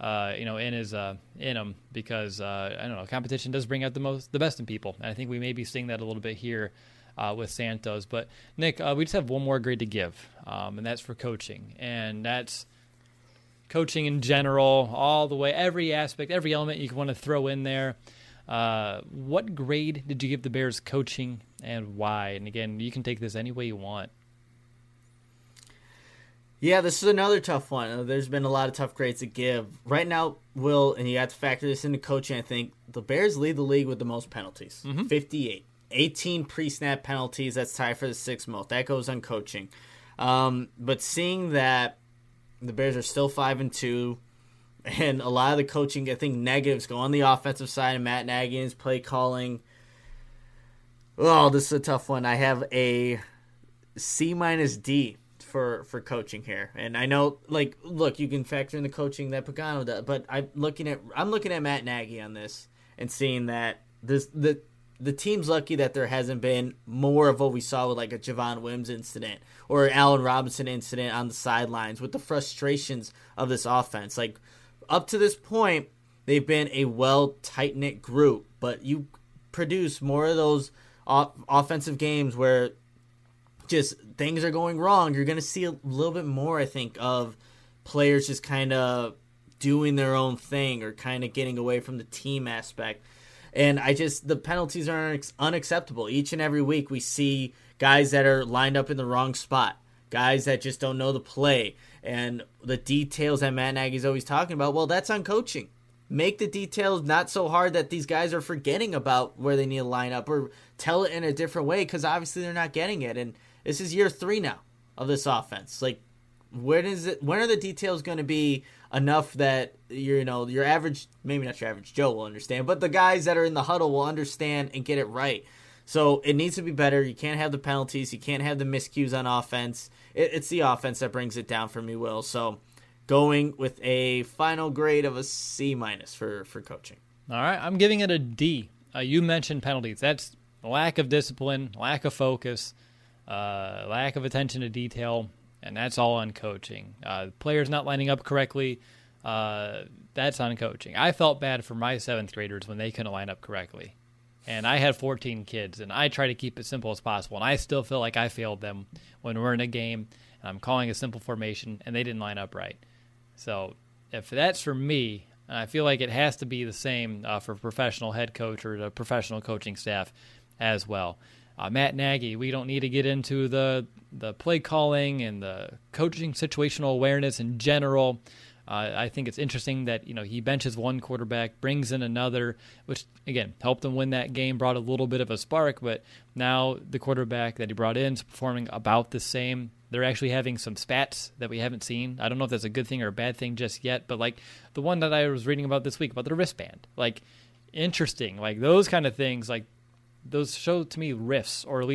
in him, because I don't know, competition does bring out the best in people, and I think we may be seeing that a little bit here with Santos. But Nick, we just have one more grade to give, and that's for coaching, and that's coaching in general, all the way, every aspect, every element you want to throw in there. What grade did you give the Bears coaching, and why? And again, you can take this any way you want. Yeah, this is another tough one. There's been a lot of tough grades to give. Right now, Will, and you have to factor this into coaching, I think, the Bears lead the league with the most penalties, 58. 18 pre-snap penalties, that's tied for the 6th most. That goes on coaching. But seeing that the Bears are still 5-2, and a lot of the coaching, I think, negatives go on the offensive side, and Matt Nagy and his play calling. Oh, this is a tough one. I have a C-D for coaching here, and I know, look, you can factor in the coaching that Pagano does, but I'm looking at Matt Nagy on this and seeing that the team's lucky that there hasn't been more of what we saw with a Javon Wims incident or Allen Robinson incident on the sidelines, with the frustrations of this offense. Up to this point, they've been a well tight-knit group, but you produce more of those offensive games where just things are going wrong, you're going to see a little bit more, I think, of players just kind of doing their own thing or kind of getting away from the team aspect. And the penalties are unacceptable. Each and every week we see guys that are lined up in the wrong spot, guys that just don't know the play, and the details that Matt Nagy's always talking about. Well, that's on coaching. Make the details not so hard that these guys are forgetting about where they need to line up, or tell it in a different way, because obviously they're not getting it. And this is year 3 now of this offense. When are the details going to be enough that your average, maybe not your average Joe will understand, but the guys that are in the huddle will understand and get it right? So it needs to be better. You can't have the penalties. You can't have the miscues on offense. It's the offense that brings it down for me, Will. So going with a final grade of a C- for coaching. All right, I'm giving it a D. You mentioned penalties. That's lack of discipline, lack of focus, lack of attention to detail, and that's all on coaching. Players not lining up correctly, that's on coaching. I felt bad for my 7th graders when they couldn't line up correctly. And I had 14 kids, and I try to keep it simple as possible. And I still feel like I failed them when we're in a game, and I'm calling a simple formation, and they didn't line up right. So if that's for me, I feel like it has to be the same for a professional head coach or the professional coaching staff as well. Matt Nagy, we don't need to get into the play calling and the coaching situational awareness in general. I think it's interesting that he benches one quarterback, brings in another, which again helped them win that game, brought a little bit of a spark. But now the quarterback that he brought in is performing about the same. They're actually having some spats that we haven't seen. I don't know if that's a good thing or a bad thing just yet, but the one that I was reading about this week about the wristband, interesting, those kind of things, those show to me rifts, or at least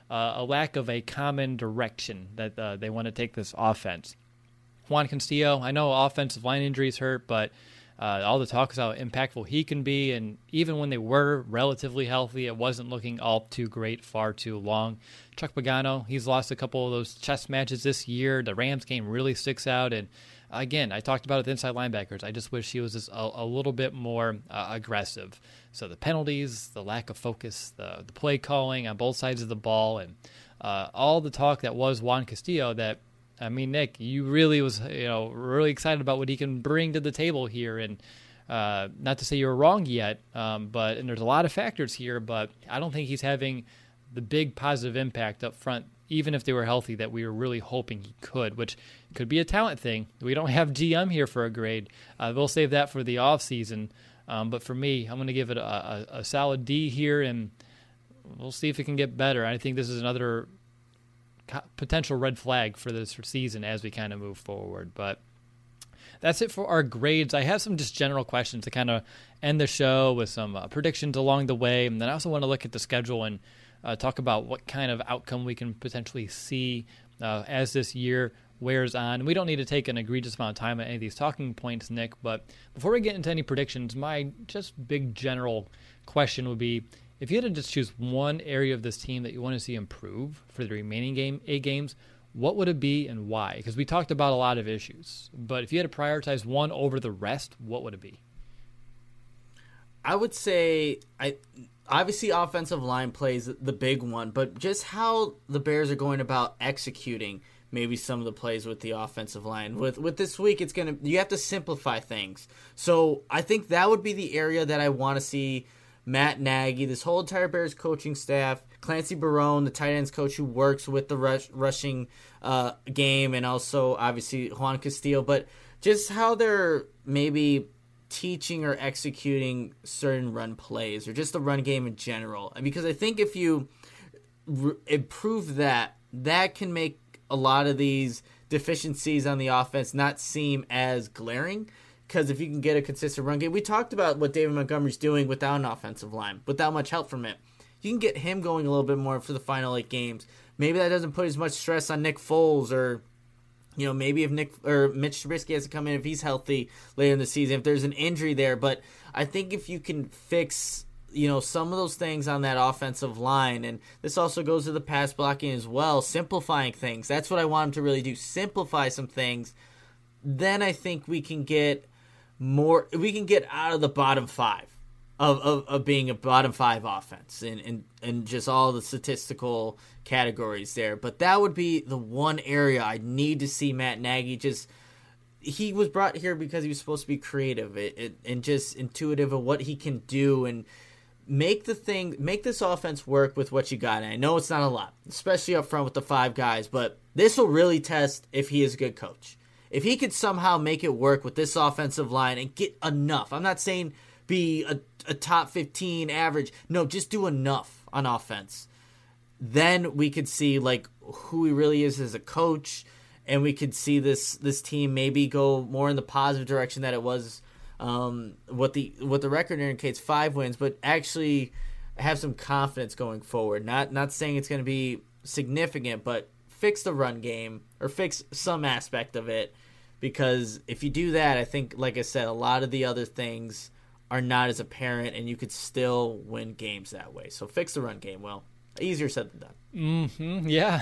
a lack of a common direction that they want to take this offense. Juan Castillo, I know offensive line injuries hurt, but all the talk is how impactful he can be, and even when they were relatively healthy, it wasn't looking all too great far too long. Chuck Pagano, he's lost a couple of those chess matches this year. The Rams game really sticks out, and again, I talked about it with inside linebackers. I just wish he was just a little bit more aggressive. So the penalties, the lack of focus, the play calling on both sides of the ball, and all the talk that was Juan Castillo that, I mean, Nick, you really was, really excited about what he can bring to the table here. And not to say you were wrong yet, and there's a lot of factors here, but I don't think he's having the big positive impact up front, even if they were healthy, that we were really hoping he could, which could be a talent thing. We don't have GM here for a grade. We'll save that for the offseason. But for me, I'm going to give it a solid D here, and we'll see if it can get better. I think this is another potential red flag for this season as we kind of move forward. But that's it for our grades. I have some just general questions to kind of end the show with some predictions along the way. And then I also want to look at the schedule and talk about what kind of outcome we can potentially see as this year wears on. We don't need to take an egregious amount of time on any of these talking points, Nick, but before we get into any predictions, my just big general question would be, if you had to just choose one area of this team that you want to see improve for the remaining 8 games, what would it be and why? Because we talked about a lot of issues, but if you had to prioritize one over the rest, what would it be? I would say, obviously offensive line plays the big one, but just how the Bears are going about executing maybe some of the plays with the offensive line. With this week, you have to simplify things. So I think that would be the area that I want to see Matt Nagy, this whole entire Bears coaching staff, Clancy Barone, the tight ends coach who works with the rushing game, and also obviously Juan Castillo, but just how they're maybe teaching or executing certain run plays or just the run game in general. Because I think if you improve that can make a lot of these deficiencies on the offense not seem as glaring. Because if you can get a consistent run game, we talked about what David Montgomery's doing without an offensive line, without much help from it. You can get him going a little bit more for the final 8 games. Maybe that doesn't put as much stress on Nick Foles, or maybe if Mitch Trubisky has to come in if he's healthy later in the season, if there's an injury there. But I think if you can fix some of those things on that offensive line, and this also goes to the pass blocking as well, simplifying things. That's what I want him to really do, simplify some things. Then I think we can get out of the bottom 5 of being a bottom 5 offense and just all the statistical categories there. But that would be the one area I need to see Matt Nagy he was brought here because he was supposed to be creative and just intuitive of what he can do and make this offense work with what you got. And I know it's not a lot, especially up front with the 5 guys, but this will really test if he is a good coach. If he could somehow make it work with this offensive line and get enough, I'm not saying be a top 15 average. No, just do enough on offense. Then we could see who he really is as a coach, and we could see this team maybe go more in the positive direction that it was. What the record indicates, 5 wins, but actually have some confidence going forward. Not saying it's going to be significant, but fix the run game or fix some aspect of it, because if you do that, I think, like I said, a lot of the other things are not as apparent, and you could still win games that way. So fix the run game. Well, easier said than done. Mm-hmm, yeah.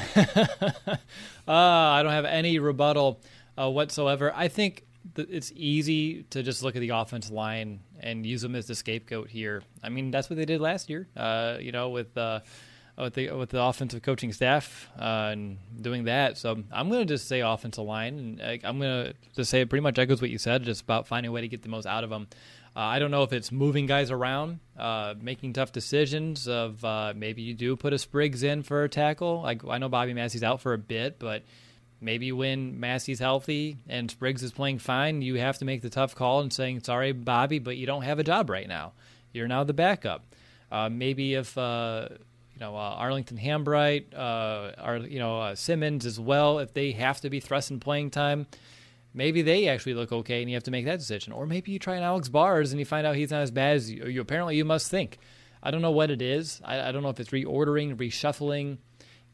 I don't have any rebuttal whatsoever. I think it's easy to just look at the offensive line and use them as the scapegoat here. I mean, that's what they did last year, with the offensive coaching staff and doing that. So I'm going to just say offensive line, and I'm going to just say it pretty much echoes what you said, just about finding a way to get the most out of them. I don't know if it's moving guys around, making tough decisions of maybe you do put a Spriggs in for a tackle. I know Bobby Massey's out for a bit, but maybe when Massey's healthy and Spriggs is playing fine, you have to make the tough call and saying, sorry, Bobby, but you don't have a job right now. You're now the backup. Maybe if Arlington Hambright, Simmons as well, if they have to be thrust in playing time, maybe they actually look okay and you have to make that decision. Or maybe you try an Alex Bars and you find out he's not as bad as you apparently you must think. I don't know what it is. I don't know if it's reordering, reshuffling.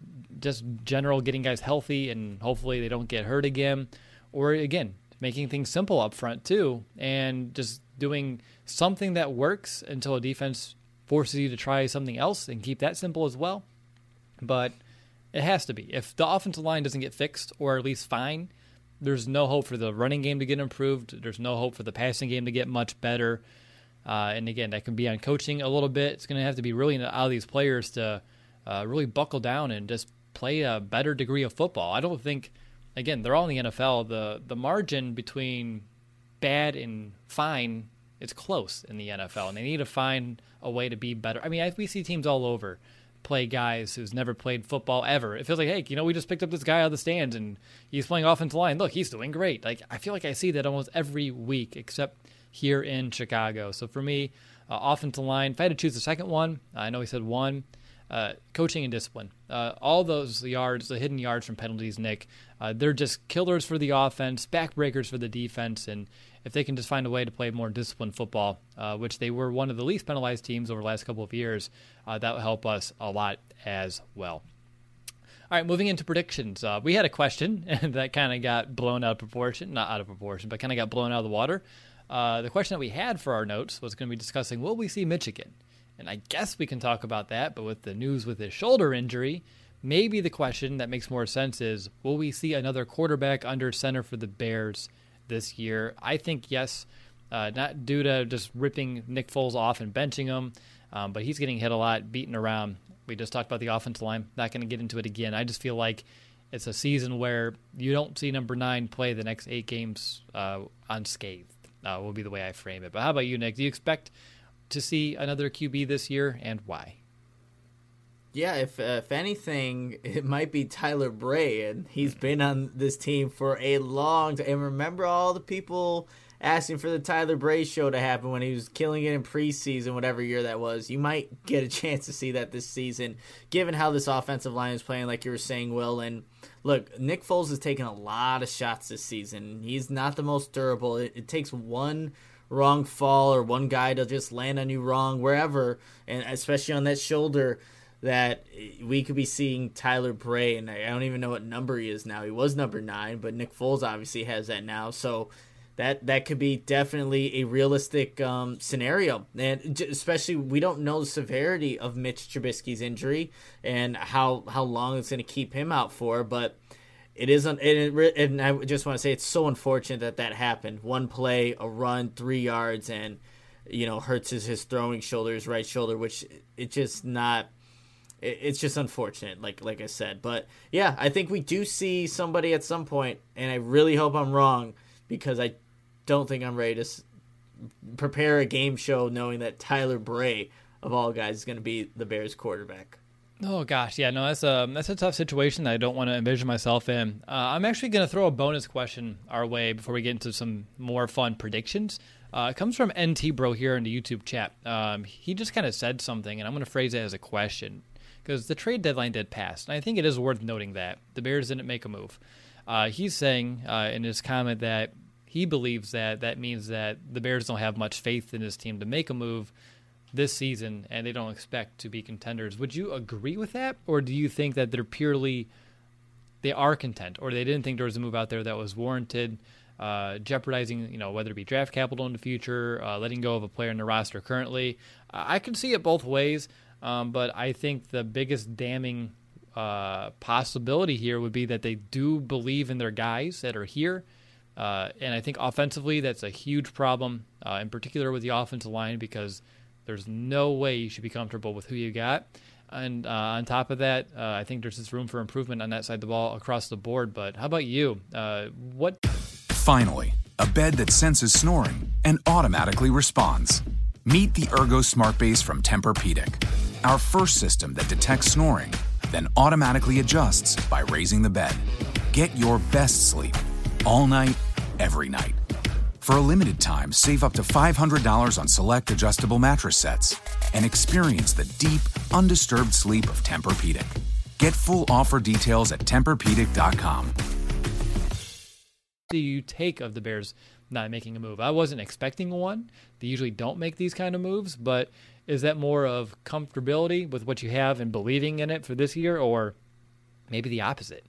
just general getting guys healthy and hopefully they don't get hurt again, or again, making things simple up front too, and just doing something that works until a defense forces you to try something else and keep that simple as well. But it has to be. If the offensive line doesn't get fixed, or at least fine, there's no hope for the running game to get improved. There's no hope for the passing game to get much better. And again, that can be on coaching a little bit. It's going to have to be really out of these players to really buckle down and just play a better degree of football. I don't think, again, they're all in the NFL. The margin between bad and fine, it's close in the NFL, and they need to find a way to be better. I mean, we see teams all over play guys who's never played football ever. It feels like, hey, we just picked up this guy out of the stands and he's playing offensive line. Look, he's doing great. Like, I feel like I see that almost every week except here in Chicago. So for me, offensive line, if I had to choose the second one, I know he said one, coaching and discipline. All those yards, the hidden yards from penalties, Nick, they're just killers for the offense, backbreakers for the defense, and if they can just find a way to play more disciplined football, which they were one of the least penalized teams over the last couple of years, that will help us a lot as well. All right, moving into predictions. We had a question that kind of got blown out of proportion. Not out of proportion, but kind of got blown out of the water. The question that we had for our notes was going to be discussing, will we see Michigan? And I guess we can talk about that, but with the news with his shoulder injury, maybe the question that makes more sense is, will we see another quarterback under center for the Bears this year? I think yes, not due to just ripping Nick Foles off and benching him, but he's getting hit a lot, beaten around. We just talked about the offensive line. Not going to get into it again. I just feel like it's a season where you don't see number 9 play the next 8 games unscathed, will be the way I frame it. But how about you, Nick? Do you expect to see another QB this year, and why? Yeah, if anything, it might be Tyler Bray, and he's been on this team for a long time. And remember all the people asking for the Tyler Bray show to happen when he was killing it in preseason, whatever year that was. You might get a chance to see that this season, given how this offensive line is playing, like you were saying, Will. And look, Nick Foles has taken a lot of shots this season. He's not the most durable. It takes one wrong fall or one guy to just land on you wrong wherever, and especially on that shoulder, that we could be seeing Tyler Bray, and I don't even know what number he is now. He was number 9, but Nick Foles obviously has that now. So that could be definitely a realistic scenario. And especially, we don't know the severity of Mitch Trubisky's injury and how long it's going to keep him out for, but it isn't. And I just want to say it's so unfortunate that happened. One play, a run, 3 yards, and hurts his throwing shoulder, his right shoulder, which it's just not. It's just unfortunate, like I said. But yeah, I think we do see somebody at some point, and I really hope I'm wrong, because I don't think I'm ready to prepare a game show knowing that Tyler Bray, of all guys, is going to be the Bears quarterback. Oh gosh, yeah, no, that's a tough situation that I don't want to envision myself in. I'm actually going to throw a bonus question our way before we get into some more fun predictions. It comes from NT Bro here in the YouTube chat. He just kind of said something, and I'm going to phrase it as a question, because the trade deadline did pass, and I think it is worth noting that the Bears didn't make a move. He's saying in his comment that he believes that means that the Bears don't have much faith in his team to make a move this season, and they don't expect to be contenders. Would you agree with that, or do you think that they are content, or they didn't think there was a move out there that was warranted, jeopardizing, whether it be draft capital in the future, letting go of a player in the roster currently? I can see it both ways, but I think the biggest damning possibility here would be that they do believe in their guys that are here. And I think offensively, that's a huge problem, in particular with the offensive line, because there's no way you should be comfortable with who you got. And on top of that, I think there's just room for improvement on that side of the ball across the board. But how about you? Finally, a bed that senses snoring and automatically responds. Meet the Ergo Smart Base from Tempur-Pedic, our first system that detects snoring, then automatically adjusts by raising the bed. Get your best sleep all night, every night. For a limited time, save up to $500 on select adjustable mattress sets and experience the deep, undisturbed sleep of Tempur-Pedic. Get full offer details at TempurPedic.com. Do you take of the Bears not making a move? I wasn't expecting one. They usually don't make these kind of moves, but is that more of comfortability with what you have and believing in it for this year, or maybe the opposite?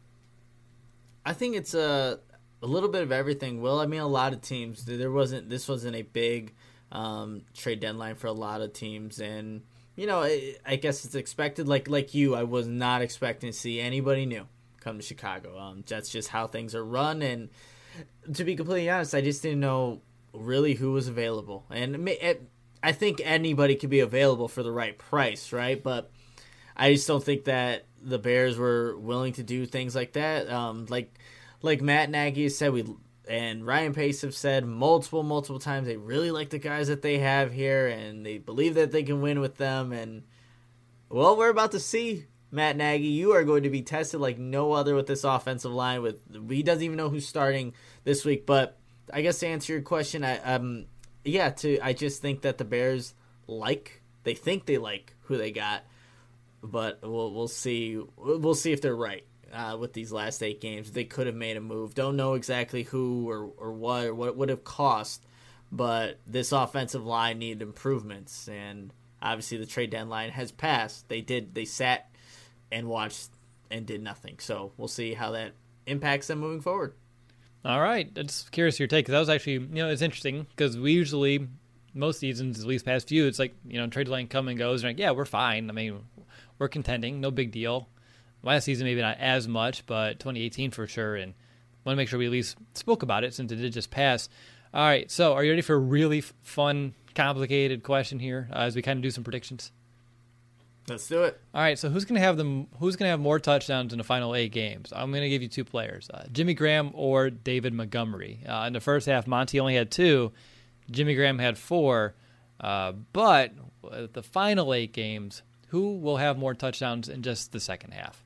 I think it's a little bit of everything. Well, I mean, a lot of teams. This wasn't a big trade deadline for a lot of teams, and I guess it's expected. Like you, I was not expecting to see anybody new come to Chicago. That's just how things are run, and to be completely honest, I just didn't know really who was available, and I think anybody could be available for the right price, right? But I just don't think that the Bears were willing to do things like that. Like Matt Nagy said, and Ryan Pace have said multiple times, they really like the guys that they have here, and they believe that they can win with them. And well, we're about to see, Matt Nagy. You are going to be tested like no other with this offensive line. He doesn't even know who's starting this week. But I guess to answer your question, I just think that the Bears think they like who they got. But we'll see. We'll see if they're right with these last 8 games. They could have made a move. Don't know exactly who or what it would have cost. But this offensive line needed improvements, and obviously the trade deadline has passed. They sat and watched and did nothing. So we'll see how that impacts them moving forward. All right, I'm just curious your take, because that was actually it's interesting, because we usually most seasons, at least past few, it's like trade deadline come and goes, and like, yeah, we're fine. I mean, we're contending, no big deal. Last season, maybe not as much, but 2018 for sure. And want to make sure we at least spoke about it since it did just pass. All right, so are you ready for a really fun, complicated question here as we kind of do some predictions? Let's do it. All right, so who's going to have more touchdowns in the final 8 games? I'm going to give you 2 players, Jimmy Graham or David Montgomery. In the first half, Monty only had 2. Jimmy Graham had 4. But the final 8 games, who will have more touchdowns in just the second half?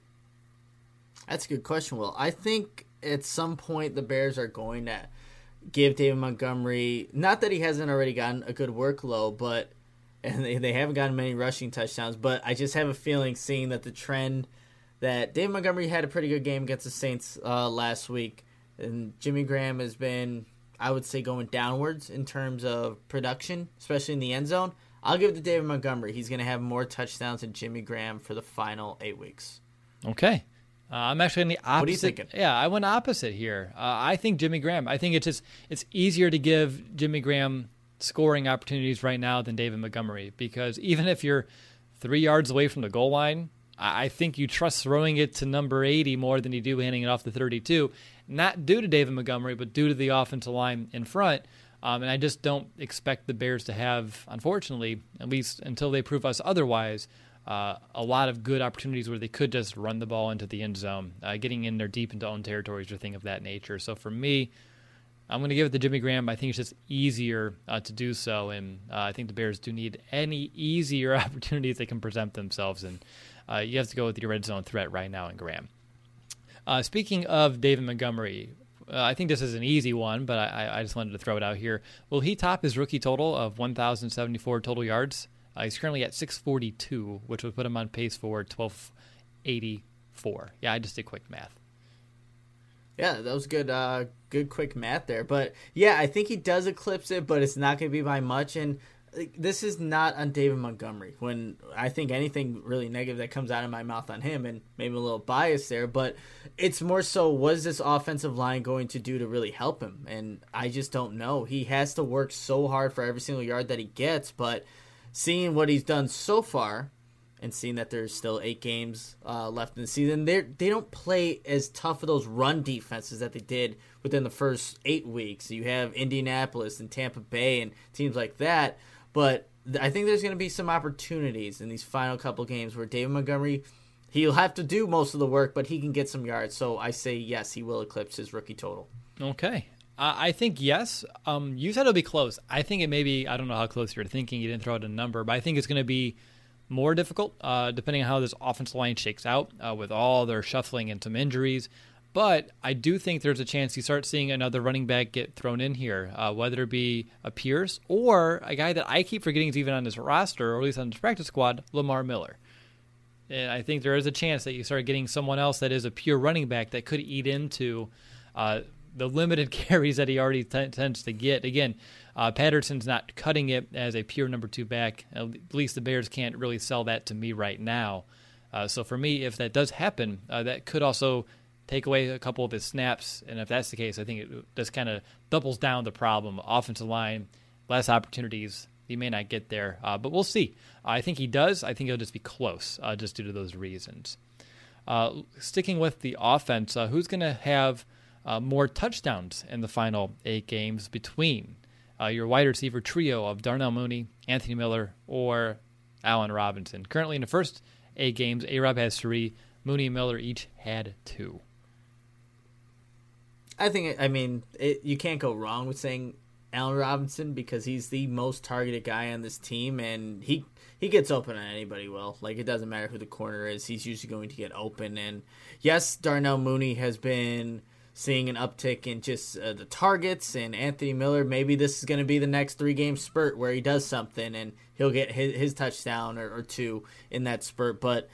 That's a good question, Will. I think at some point the Bears are going to give David Montgomery, not that he hasn't already gotten a good workload, and they haven't gotten many rushing touchdowns, but I just have a feeling, seeing that the trend that David Montgomery had a pretty good game against the Saints last week, and Jimmy Graham has been, I would say, going downwards in terms of production, especially in the end zone. I'll give it to David Montgomery. He's going to have more touchdowns than Jimmy Graham for the final 8 weeks. Okay. I'm actually in the opposite. What are you thinking? Yeah, I went opposite here. I think Jimmy Graham. I think it's easier to give Jimmy Graham scoring opportunities right now than David Montgomery, because even if you're 3 yards away from the goal line, I think you trust throwing it to number 80 more than you do handing it off to 32, not due to David Montgomery, but due to the offensive line in front. And I just don't expect the Bears to have, unfortunately, at least until they prove us otherwise, a lot of good opportunities where they could just run the ball into the end zone, getting in there deep into own territories or thing of that nature. So for me, I'm going to give it to Jimmy Graham. I think it's just easier to do so, and I think the Bears do need any easier opportunities they can present themselves, and you have to go with your red zone threat right now in Graham. Speaking of David Montgomery, I think this is an easy one, but I just wanted to throw it out here. Will he top his rookie total of 1,074 total yards? He's currently at 642, which would put him on pace for 1,284. Yeah, I just did quick math. Yeah, that was good quick math there. But, yeah, I think he does eclipse it, but it's not going to be by much. And this is not on David Montgomery. When I think anything really negative that comes out of my mouth on him, and maybe a little bias there, but it's more so, what is this offensive line going to do to really help him? And I just don't know. He has to work so hard for every single yard that he gets, but seeing what he's done so far, and seeing that there's still 8 games left in the season, they don't play as tough of those run defenses that they did within the first 8 weeks. You have Indianapolis and Tampa Bay and teams like that, but I think there's going to be some opportunities in these final couple games where David Montgomery, he'll have to do most of the work, but he can get some yards. So I say yes, he will eclipse his rookie total. Okay. I think yes. You said it'll be close. I think it may be, I don't know how close you're thinking. You didn't throw out a number, but I think it's going to be more difficult depending on how this offensive line shakes out with all their shuffling and some injuries. But I do think there's a chance you start seeing another running back get thrown in here, whether it be a Pierce or a guy that I keep forgetting is even on this roster, or at least on this practice squad, Lamar Miller. And I think there is a chance that you start getting someone else that is a pure running back that could eat into the limited carries that he already tends to get. Again, Patterson's not cutting it as a pure number 2 back. At least the Bears can't really sell that to me right now. So for me, if that does happen, that could also take away a couple of his snaps. And if that's the case, I think it just kind of doubles down the problem. Offensive line, less opportunities. He may not get there, but we'll see. I think he does. I think he'll just be close just due to those reasons. Sticking with the offense, who's going to have more touchdowns in the final 8 games between your wide receiver trio of Darnell Mooney, Anthony Miller, or Allen Robinson? Currently in the first 8 games, A-Rob has 3. Mooney and Miller each had 2. You can't go wrong with saying Allen Robinson because he's the most targeted guy on this team, and he gets open on anybody well. Like, it doesn't matter who the corner is. He's usually going to get open. And, yes, Darnell Mooney has been seeing an uptick in just the targets, and Anthony Miller, maybe this is going to be the next 3-game spurt where he does something and he'll get his touchdown or 2 in that spurt. But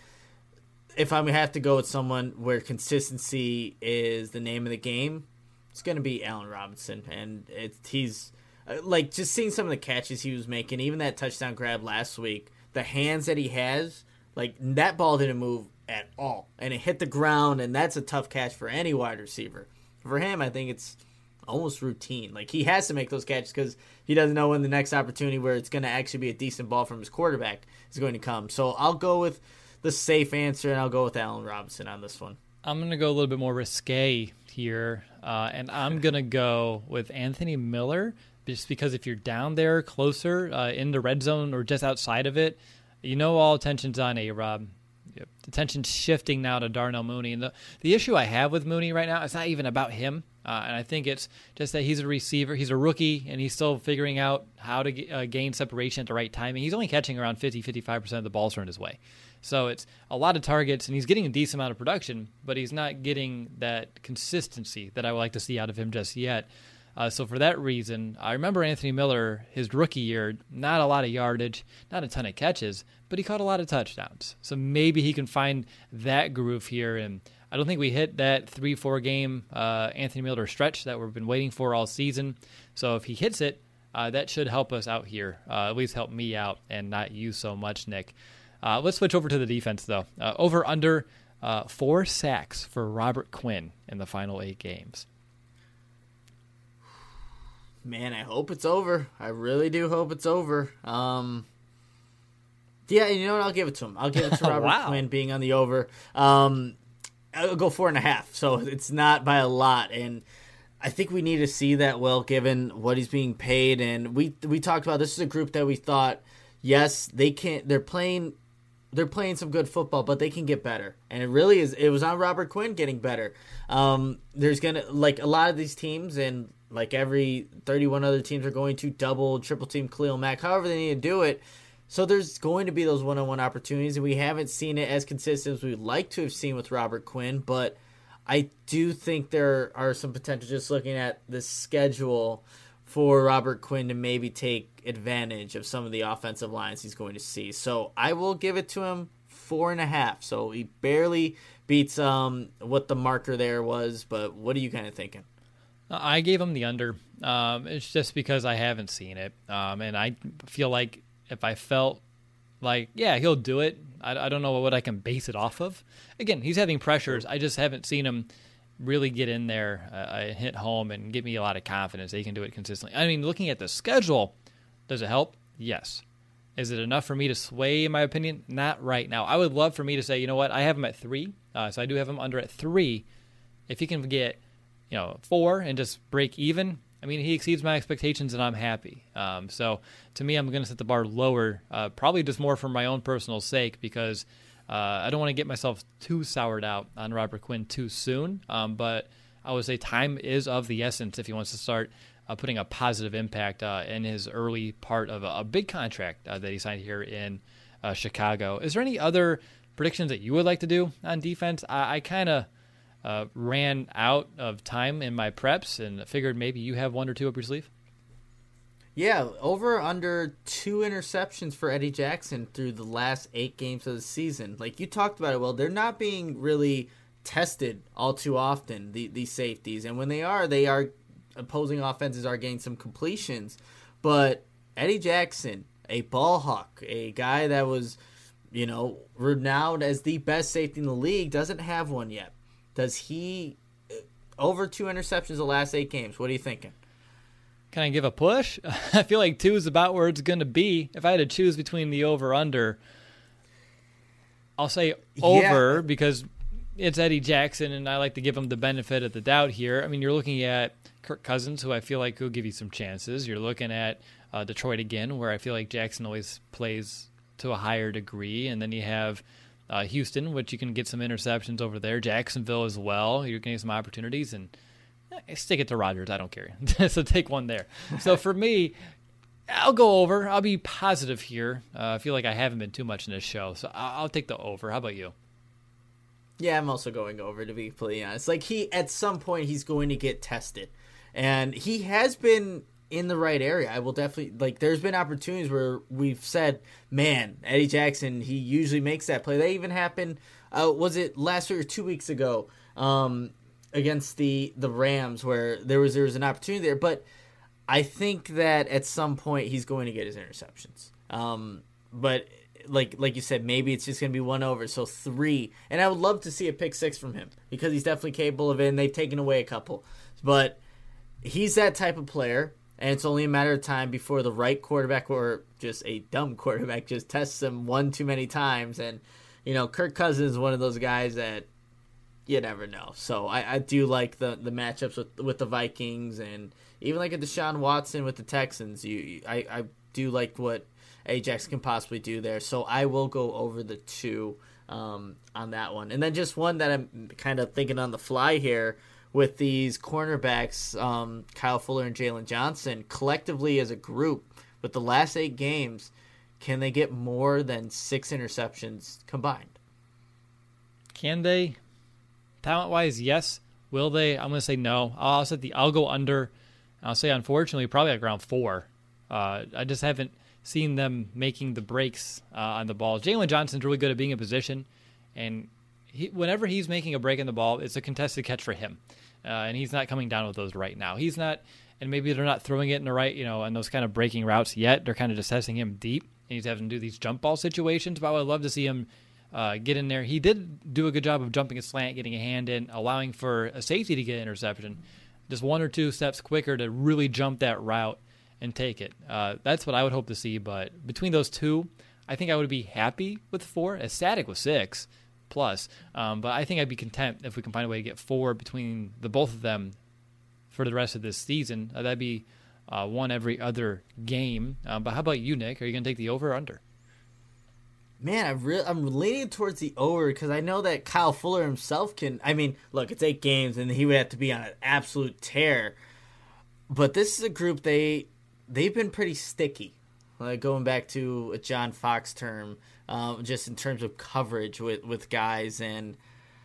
if I'm going to have to go with someone where consistency is the name of the game, it's going to be Allen Robinson. And he's like, just seeing some of the catches he was making, even that touchdown grab last week, the hands that he has, like, that ball didn't move at all. And it hit the ground, and that's a tough catch for any wide receiver. For him, I think it's almost routine. Like, he has to make those catches because he doesn't know when the next opportunity where it's going to actually be a decent ball from his quarterback is going to come. So I'll go with the safe answer, and I'll go with Allen Robinson on this one. I'm going to go a little bit more risque here, and I'm going to go with Anthony Miller, just because if you're down there closer in the red zone or just outside of it, all attention's on A-Rob. Yep. Attention's shifting now to Darnell Mooney. And the issue I have with Mooney right now, it's not even about him. And I think it's just that he's a receiver. He's a rookie, and he's still figuring out how to gain separation at the right timing. He's only catching around 55% of the balls thrown his way. So it's a lot of targets, and he's getting a decent amount of production, but he's not getting that consistency that I would like to see out of him just yet. So for that reason, I remember Anthony Miller, his rookie year, not a lot of yardage, not a ton of catches, but he caught a lot of touchdowns. So maybe he can find that groove here. And I don't think we hit that 3-4 game Anthony Miller stretch that we've been waiting for all season. So if he hits it, that should help us out here, at least help me out and not you so much, Nick. Let's switch over to the defense, though. Over under 4 sacks for Robert Quinn in the final 8 games. Man, I hope it's over. I really do hope it's over. Yeah, you know what? I'll give it to him. I'll give it to Robert Wow. Quinn being on the over. I'll go 4.5, so it's not by a lot. And I think we need to see that given what he's being paid. And we talked about this is a group that we thought, yes, they can't. They're playing some good football, but they can get better. And it really is. It was on Robert Quinn getting better. There's gonna, like, a lot of these teams, and like every 31 other teams, are going to double, triple team Khalil Mack, however they need to do it. So there's going to be those one-on-one opportunities, and we haven't seen it as consistent as we'd like to have seen with Robert Quinn. But I do think there are some potential, just looking at the schedule, for Robert Quinn to maybe take advantage of some of the offensive lines he's going to see. So I will give it to him 4.5. So he barely beats what the marker there was. But what are you kind of thinking? I gave him the under. It's just because I haven't seen it. And I feel like if I felt like, yeah, he'll do it, I don't know what I can base it off of. Again, he's having pressures. I just haven't seen him really get in there, hit home, and give me a lot of confidence that he can do it consistently. I mean, looking at the schedule, does it help? Yes. Is it enough for me to sway, in my opinion? Not right now. I would love for me to say, you know what, I have him at 3, so I do have him under at 3. If he can get 4 and just break even, I mean, he exceeds my expectations, and I'm happy. So to me, I'm going to set the bar lower, probably just more for my own personal sake, because I don't want to get myself too soured out on Robert Quinn too soon. But I would say time is of the essence if he wants to start putting a positive impact in his early part of a big contract that he signed here in Chicago. Is there any other predictions that you would like to do on defense? I kind of ran out of time in my preps and figured maybe you have 1 or 2 up your sleeve. Yeah, over under 2 interceptions for Eddie Jackson through the last 8 games of the season. Like you talked about it, well, they're not being really tested all too often, these safeties. And when they are, opposing offenses are getting some completions. But Eddie Jackson, a ball hawk, a guy that was renowned as the best safety in the league, doesn't have one yet. Does he over 2 interceptions the last 8 games? What are you thinking? Can I give a push? I feel like 2 is about where it's going to be. If I had to choose between the over-under, I'll say over because it's Eddie Jackson, and I like to give him the benefit of the doubt here. I mean, you're looking at Kirk Cousins, who I feel like will give you some chances. You're looking at Detroit again, where I feel like Jackson always plays to a higher degree. And then you have Houston, which you can get some interceptions over there. Jacksonville as well. You're getting some opportunities, and stick it to Rodgers. I don't care. So take one there. So for me, I'll go over. I'll be positive here. I feel like I haven't been too much in this show, so I'll take the over. How about you? Yeah, I'm also going over, to be completely honest. Like, at some point, he's going to get tested. And he has been in the right area. I will definitely, there's been opportunities where we've said, man, Eddie Jackson, he usually makes that play. That even happened, was it last week or 2 weeks ago, against the Rams, where there was an opportunity there. But I think that at some point he's going to get his interceptions. But like you said, maybe it's just going to be 1 over, so 3. And I would love to see a pick 6 from him because he's definitely capable of it, and they've taken away a couple. But he's that type of player, and it's only a matter of time before the right quarterback or just a dumb quarterback just tests him one too many times. And, Kirk Cousins is one of those guys that you never know. So I do like the matchups with the Vikings, and even like a Deshaun Watson with the Texans. I do like what Ajax can possibly do there. So I will go over the 2 on that one. And then just one that I'm kind of thinking on the fly here with these cornerbacks, Kyle Fuller and Jalen Johnson, collectively as a group with the last 8 games, can they get more than 6 interceptions combined? Can they? Talent-wise, yes. Will they? I'm going to say no. I'll go under. I'll say, unfortunately, probably like around 4. I just haven't seen them making the breaks on the ball. Jalen Johnson's really good at being in position, and whenever he's making a break in the ball, it's a contested catch for him, and he's not coming down with those right now. He's not, and maybe they're not throwing it in the right, in those kind of breaking routes yet. They're kind of just testing him deep, and he's having to do these jump ball situations, but I would love to see him get in there. He did do a good job of jumping a slant, getting a hand in, allowing for a safety to get an interception, just 1 or 2 steps quicker to really jump that route and take it. That's what I would hope to see. But between those 2, I think I would be happy with 4, ecstatic with 6 plus. But I think I'd be content if we can find a way to get 4 between the both of them for the rest of this season. That'd be 1 every other game. But how about you, Nick? Are you going to take the over or under? Man, I'm leaning towards the over because I know that Kyle Fuller himself can. I mean, look, it's 8 games and he would have to be on an absolute tear. But this is a group they've been pretty sticky. Going back to a John Fox term, just in terms of coverage with guys. And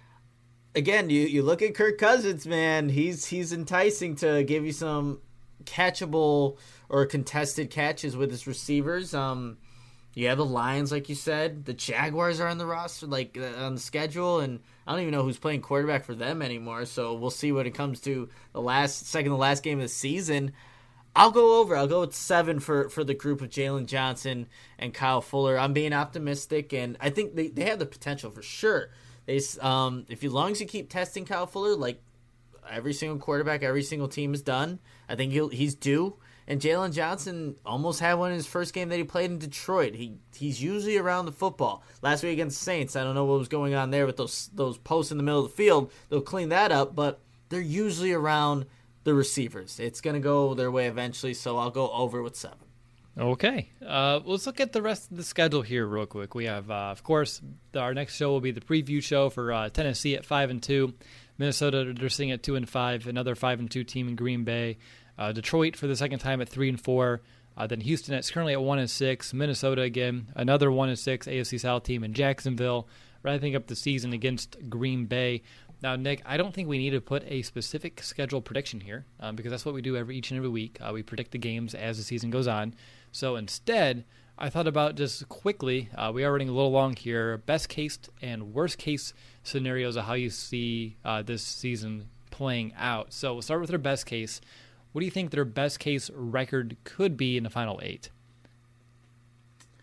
again, you look at Kirk Cousins, man, he's enticing to give you some catchable or contested catches with his receivers. You have the Lions, like you said. The Jaguars are on the roster, on the schedule, and I don't even know who's playing quarterback for them anymore. So we'll see when it comes to the last game of the season. I'll go over. I'll go with 7 for the group of Jalen Johnson and Kyle Fuller. I'm being optimistic, and I think they have the potential for sure. As long as you keep testing Kyle Fuller, like every single quarterback, every single team has done, I think he's due. And Jalen Johnson almost had one in his first game that he played in Detroit. He's usually around the football. Last week against the Saints, I don't know what was going on there with those posts in the middle of the field. They'll clean that up, but they're usually around the receivers. It's going to go their way eventually, so I'll go over with 7. Okay. Let's look at the rest of the schedule here real quick. We have, of course, our next show will be the preview show for Tennessee at 5-2. Minnesota, they're sitting at 2-5. Another 5-2 team in Green Bay. Detroit for the second time at 3-4. Then Houston is currently at 1-6. Minnesota again, another 1-6 AFC South team in Jacksonville, wrapping up the season against Green Bay. Now, Nick, I don't think we need to put a specific schedule prediction here because that's what we do each and every week. We predict the games as the season goes on. So instead, I thought about just quickly, we are running a little long here, best case and worst case scenarios of how you see this season playing out. So we'll start with their best case. What do you think their best case record could be in the final 8?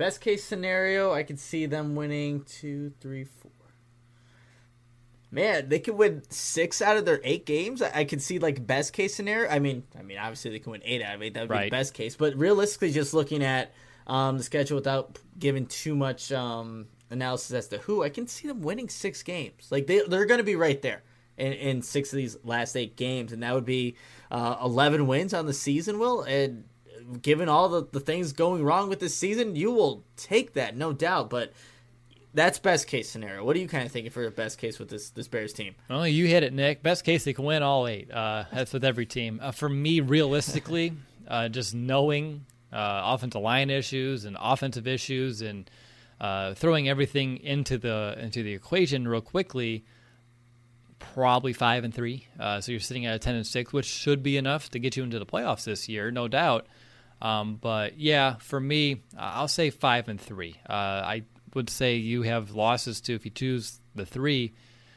Best case scenario, I could see them winning 2, 3, 4. Man, they could win 6 out of their 8 games. I could see like best case scenario. I mean, obviously they can win 8 out of 8. That would be the best case. But realistically, just looking at the schedule without giving too much analysis as to who, I can see them winning 6 games. Like they're going to be right there in 6 of these last 8 games, and that would be 11 wins on the season. Will, and given all the things going wrong with this season, you will take that, no doubt. But that's best case scenario. What are you kind of thinking for the best case with this Bears team? Well, you hit it, Nick. Best case, they can win all 8. That's with every team. For me, realistically, just knowing offensive line issues and offensive issues and throwing everything into the equation real quickly, probably 5-3. So you're sitting at a 10-6, which should be enough to get you into the playoffs this year, no doubt. But yeah, for me, I'll say 5-3. I would say you have losses to, if you choose the 3.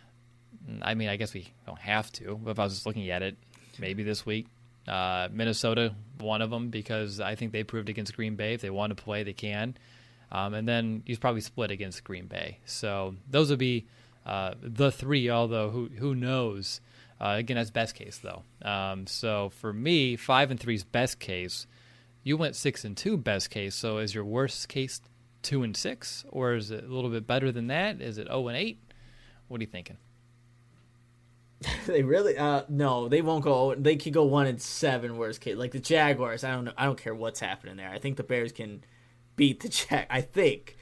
I mean, I guess we don't have to. But if I was just looking at it, maybe this week, Minnesota, one of them, because I think they proved against Green Bay. If they want to play, they can. And then you probably split against Green Bay. So those would be the 3, although who knows? Again, that's best case, though. So for me, 5-3 is best case. You went 6-2 best case. So is your worst case 2-6, or is it a little bit better than that? Is it 0-8? What are you thinking? They really no, they won't go. They could go 1-7 worst case. Like the Jaguars, I don't know. I don't care what's happening there. I think the Bears can beat the I think.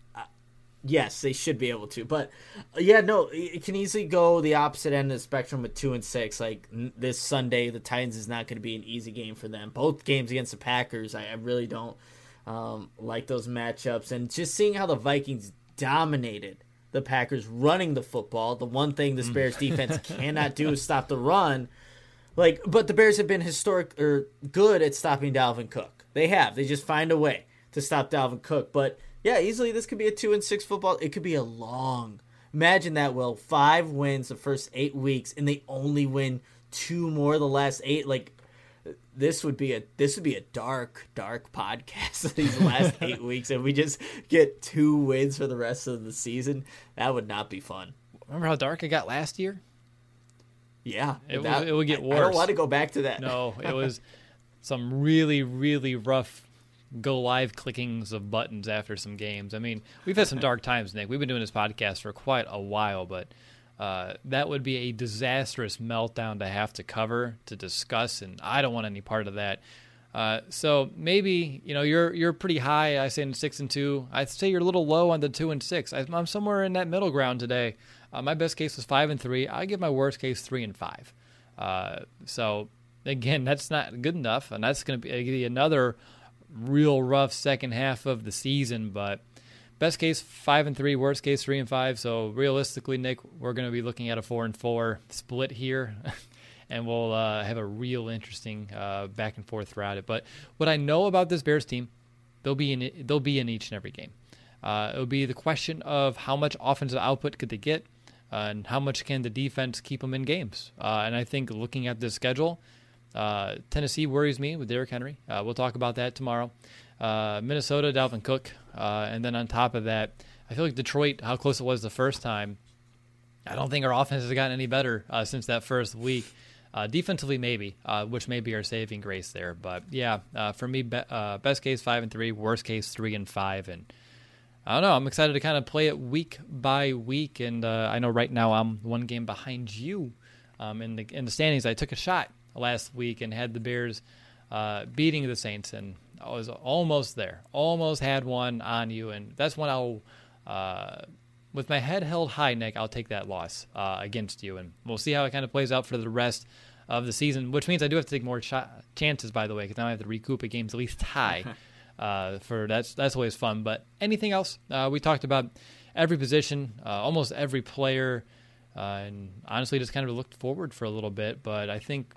Yes, they should be able to. But yeah, no, it can easily go the opposite end of the spectrum with 2-6. Like this Sunday, the Titans is not going to be an easy game for them. Both games against the Packers, I really don't like those matchups. And just seeing how the Vikings dominated the Packers running the football, the one thing this Bears defense cannot do is stop the run. But the Bears have been good at stopping Dalvin Cook. They have. They just find a way to stop Dalvin Cook. But yeah, easily this could be a 2-6 football. It could be a long. Imagine that, Will. 5 wins the first 8 weeks, and they only win 2 more the last 8. Like this would be a dark podcast these last 8 weeks, and we just get 2 wins for the rest of the season. That would not be fun. Remember how dark it got last year? Yeah, it would get worse. I don't want to go back to that. No, it was some really, really rough go live clickings of buttons after some games. I mean, we've had some dark times, Nick. We've been doing this podcast for quite a while, but that would be a disastrous meltdown to have to cover, to discuss, and I don't want any part of that. So maybe you're pretty high. I say in 6-2. I'd say you're a little low on the 2-6. I'm somewhere in that middle ground today. My best case was 5-3. I give my worst case 3-5. So again, that's not good enough, and that's going to be another real rough second half of the season. But best case 5-3, worst case 3-5. So realistically, Nick, we're going to be looking at a 4-4 split here. And we'll have a real interesting back and forth throughout it. But what I know about this Bears team, they'll be in each and every game. It'll be the question of how much offensive output could they get, and how much can the defense keep them in games. And I think looking at this schedule, Tennessee worries me with Derrick Henry. We'll talk about that tomorrow. Minnesota, Dalvin Cook, and then on top of that, I feel like Detroit, how close it was the first time. I don't think our offense has gotten any better since that first week. Defensively, maybe, which may be our saving grace there. But yeah, for me, best case 5-3, worst case 3-5, and I don't know. I'm excited to kind of play it week by week, and I know right now I'm 1 game behind you in the standings. I took a shot last week and had the Bears beating the Saints, and I was almost there. Almost had one on you, and that's one I'll, with my head held high, Nick, I'll take that loss against you, and we'll see how it kind of plays out for the rest of the season, which means I do have to take more chances, by the way, because now I have to recoup a game's at least tie. That's always fun. But anything else? We talked about every position, almost every player, and honestly just kind of looked forward for a little bit. But I think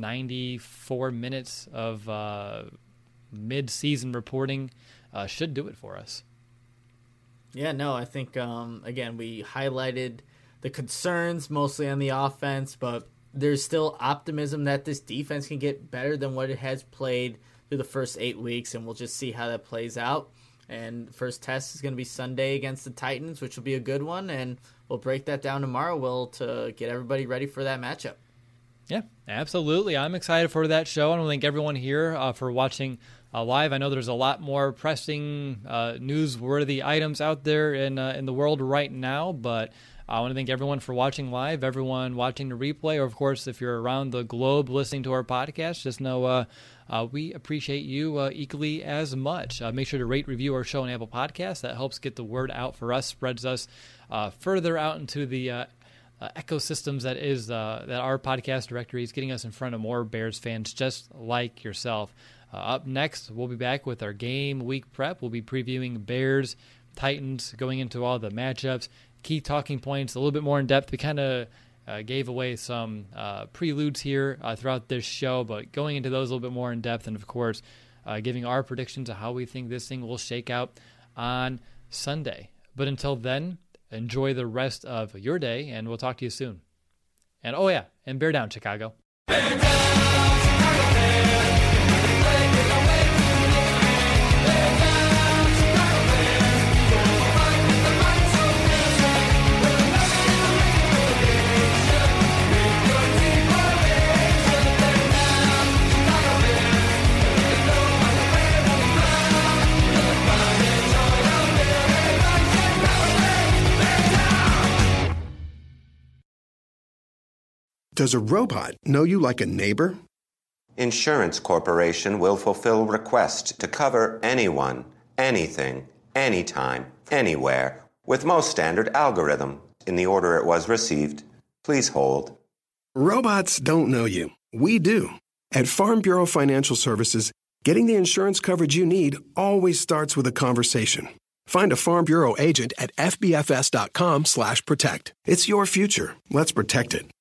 94 minutes of mid-season reporting should do it for us. Yeah, no, I think, again, we highlighted the concerns mostly on the offense, but there's still optimism that this defense can get better than what it has played through the first 8 weeks, and we'll just see how that plays out. And first test is going to be Sunday against the Titans, which will be a good one. And we'll break that down tomorrow, Will, to get everybody ready for that matchup. Yeah, absolutely. I'm excited for that show. I want to thank everyone here for watching live. I know there's a lot more pressing, newsworthy items out there in the world right now, but I want to thank everyone for watching live, everyone watching the replay, or, of course, if you're around the globe listening to our podcast, just know we appreciate you equally as much. Make sure to rate, review our show on Apple Podcasts. That helps get the word out for us, spreads us further out into the ecosystems that is that our podcast directory is, getting us in front of more Bears fans just like yourself. Up next, we'll be back with our game week prep. We'll be previewing Bears, Titans, going into all the matchups, key talking points, a little bit more in depth. We kind of gave away some preludes here throughout this show, but going into those a little bit more in depth, and of course, giving our predictions of how we think this thing will shake out on Sunday. But until then, enjoy the rest of your day, and we'll talk to you soon. And oh yeah, and bear down, Chicago. Bear down, Chicago Bears. Does a robot know you like a neighbor? Insurance Corporation will fulfill requests to cover anyone, anything, anytime, anywhere, with most standard algorithm in the order it was received. Please hold. Robots don't know you. We do. At Farm Bureau Financial Services, getting the insurance coverage you need always starts with a conversation. Find a Farm Bureau agent at fbfs.com/protect. It's your future. Let's protect it.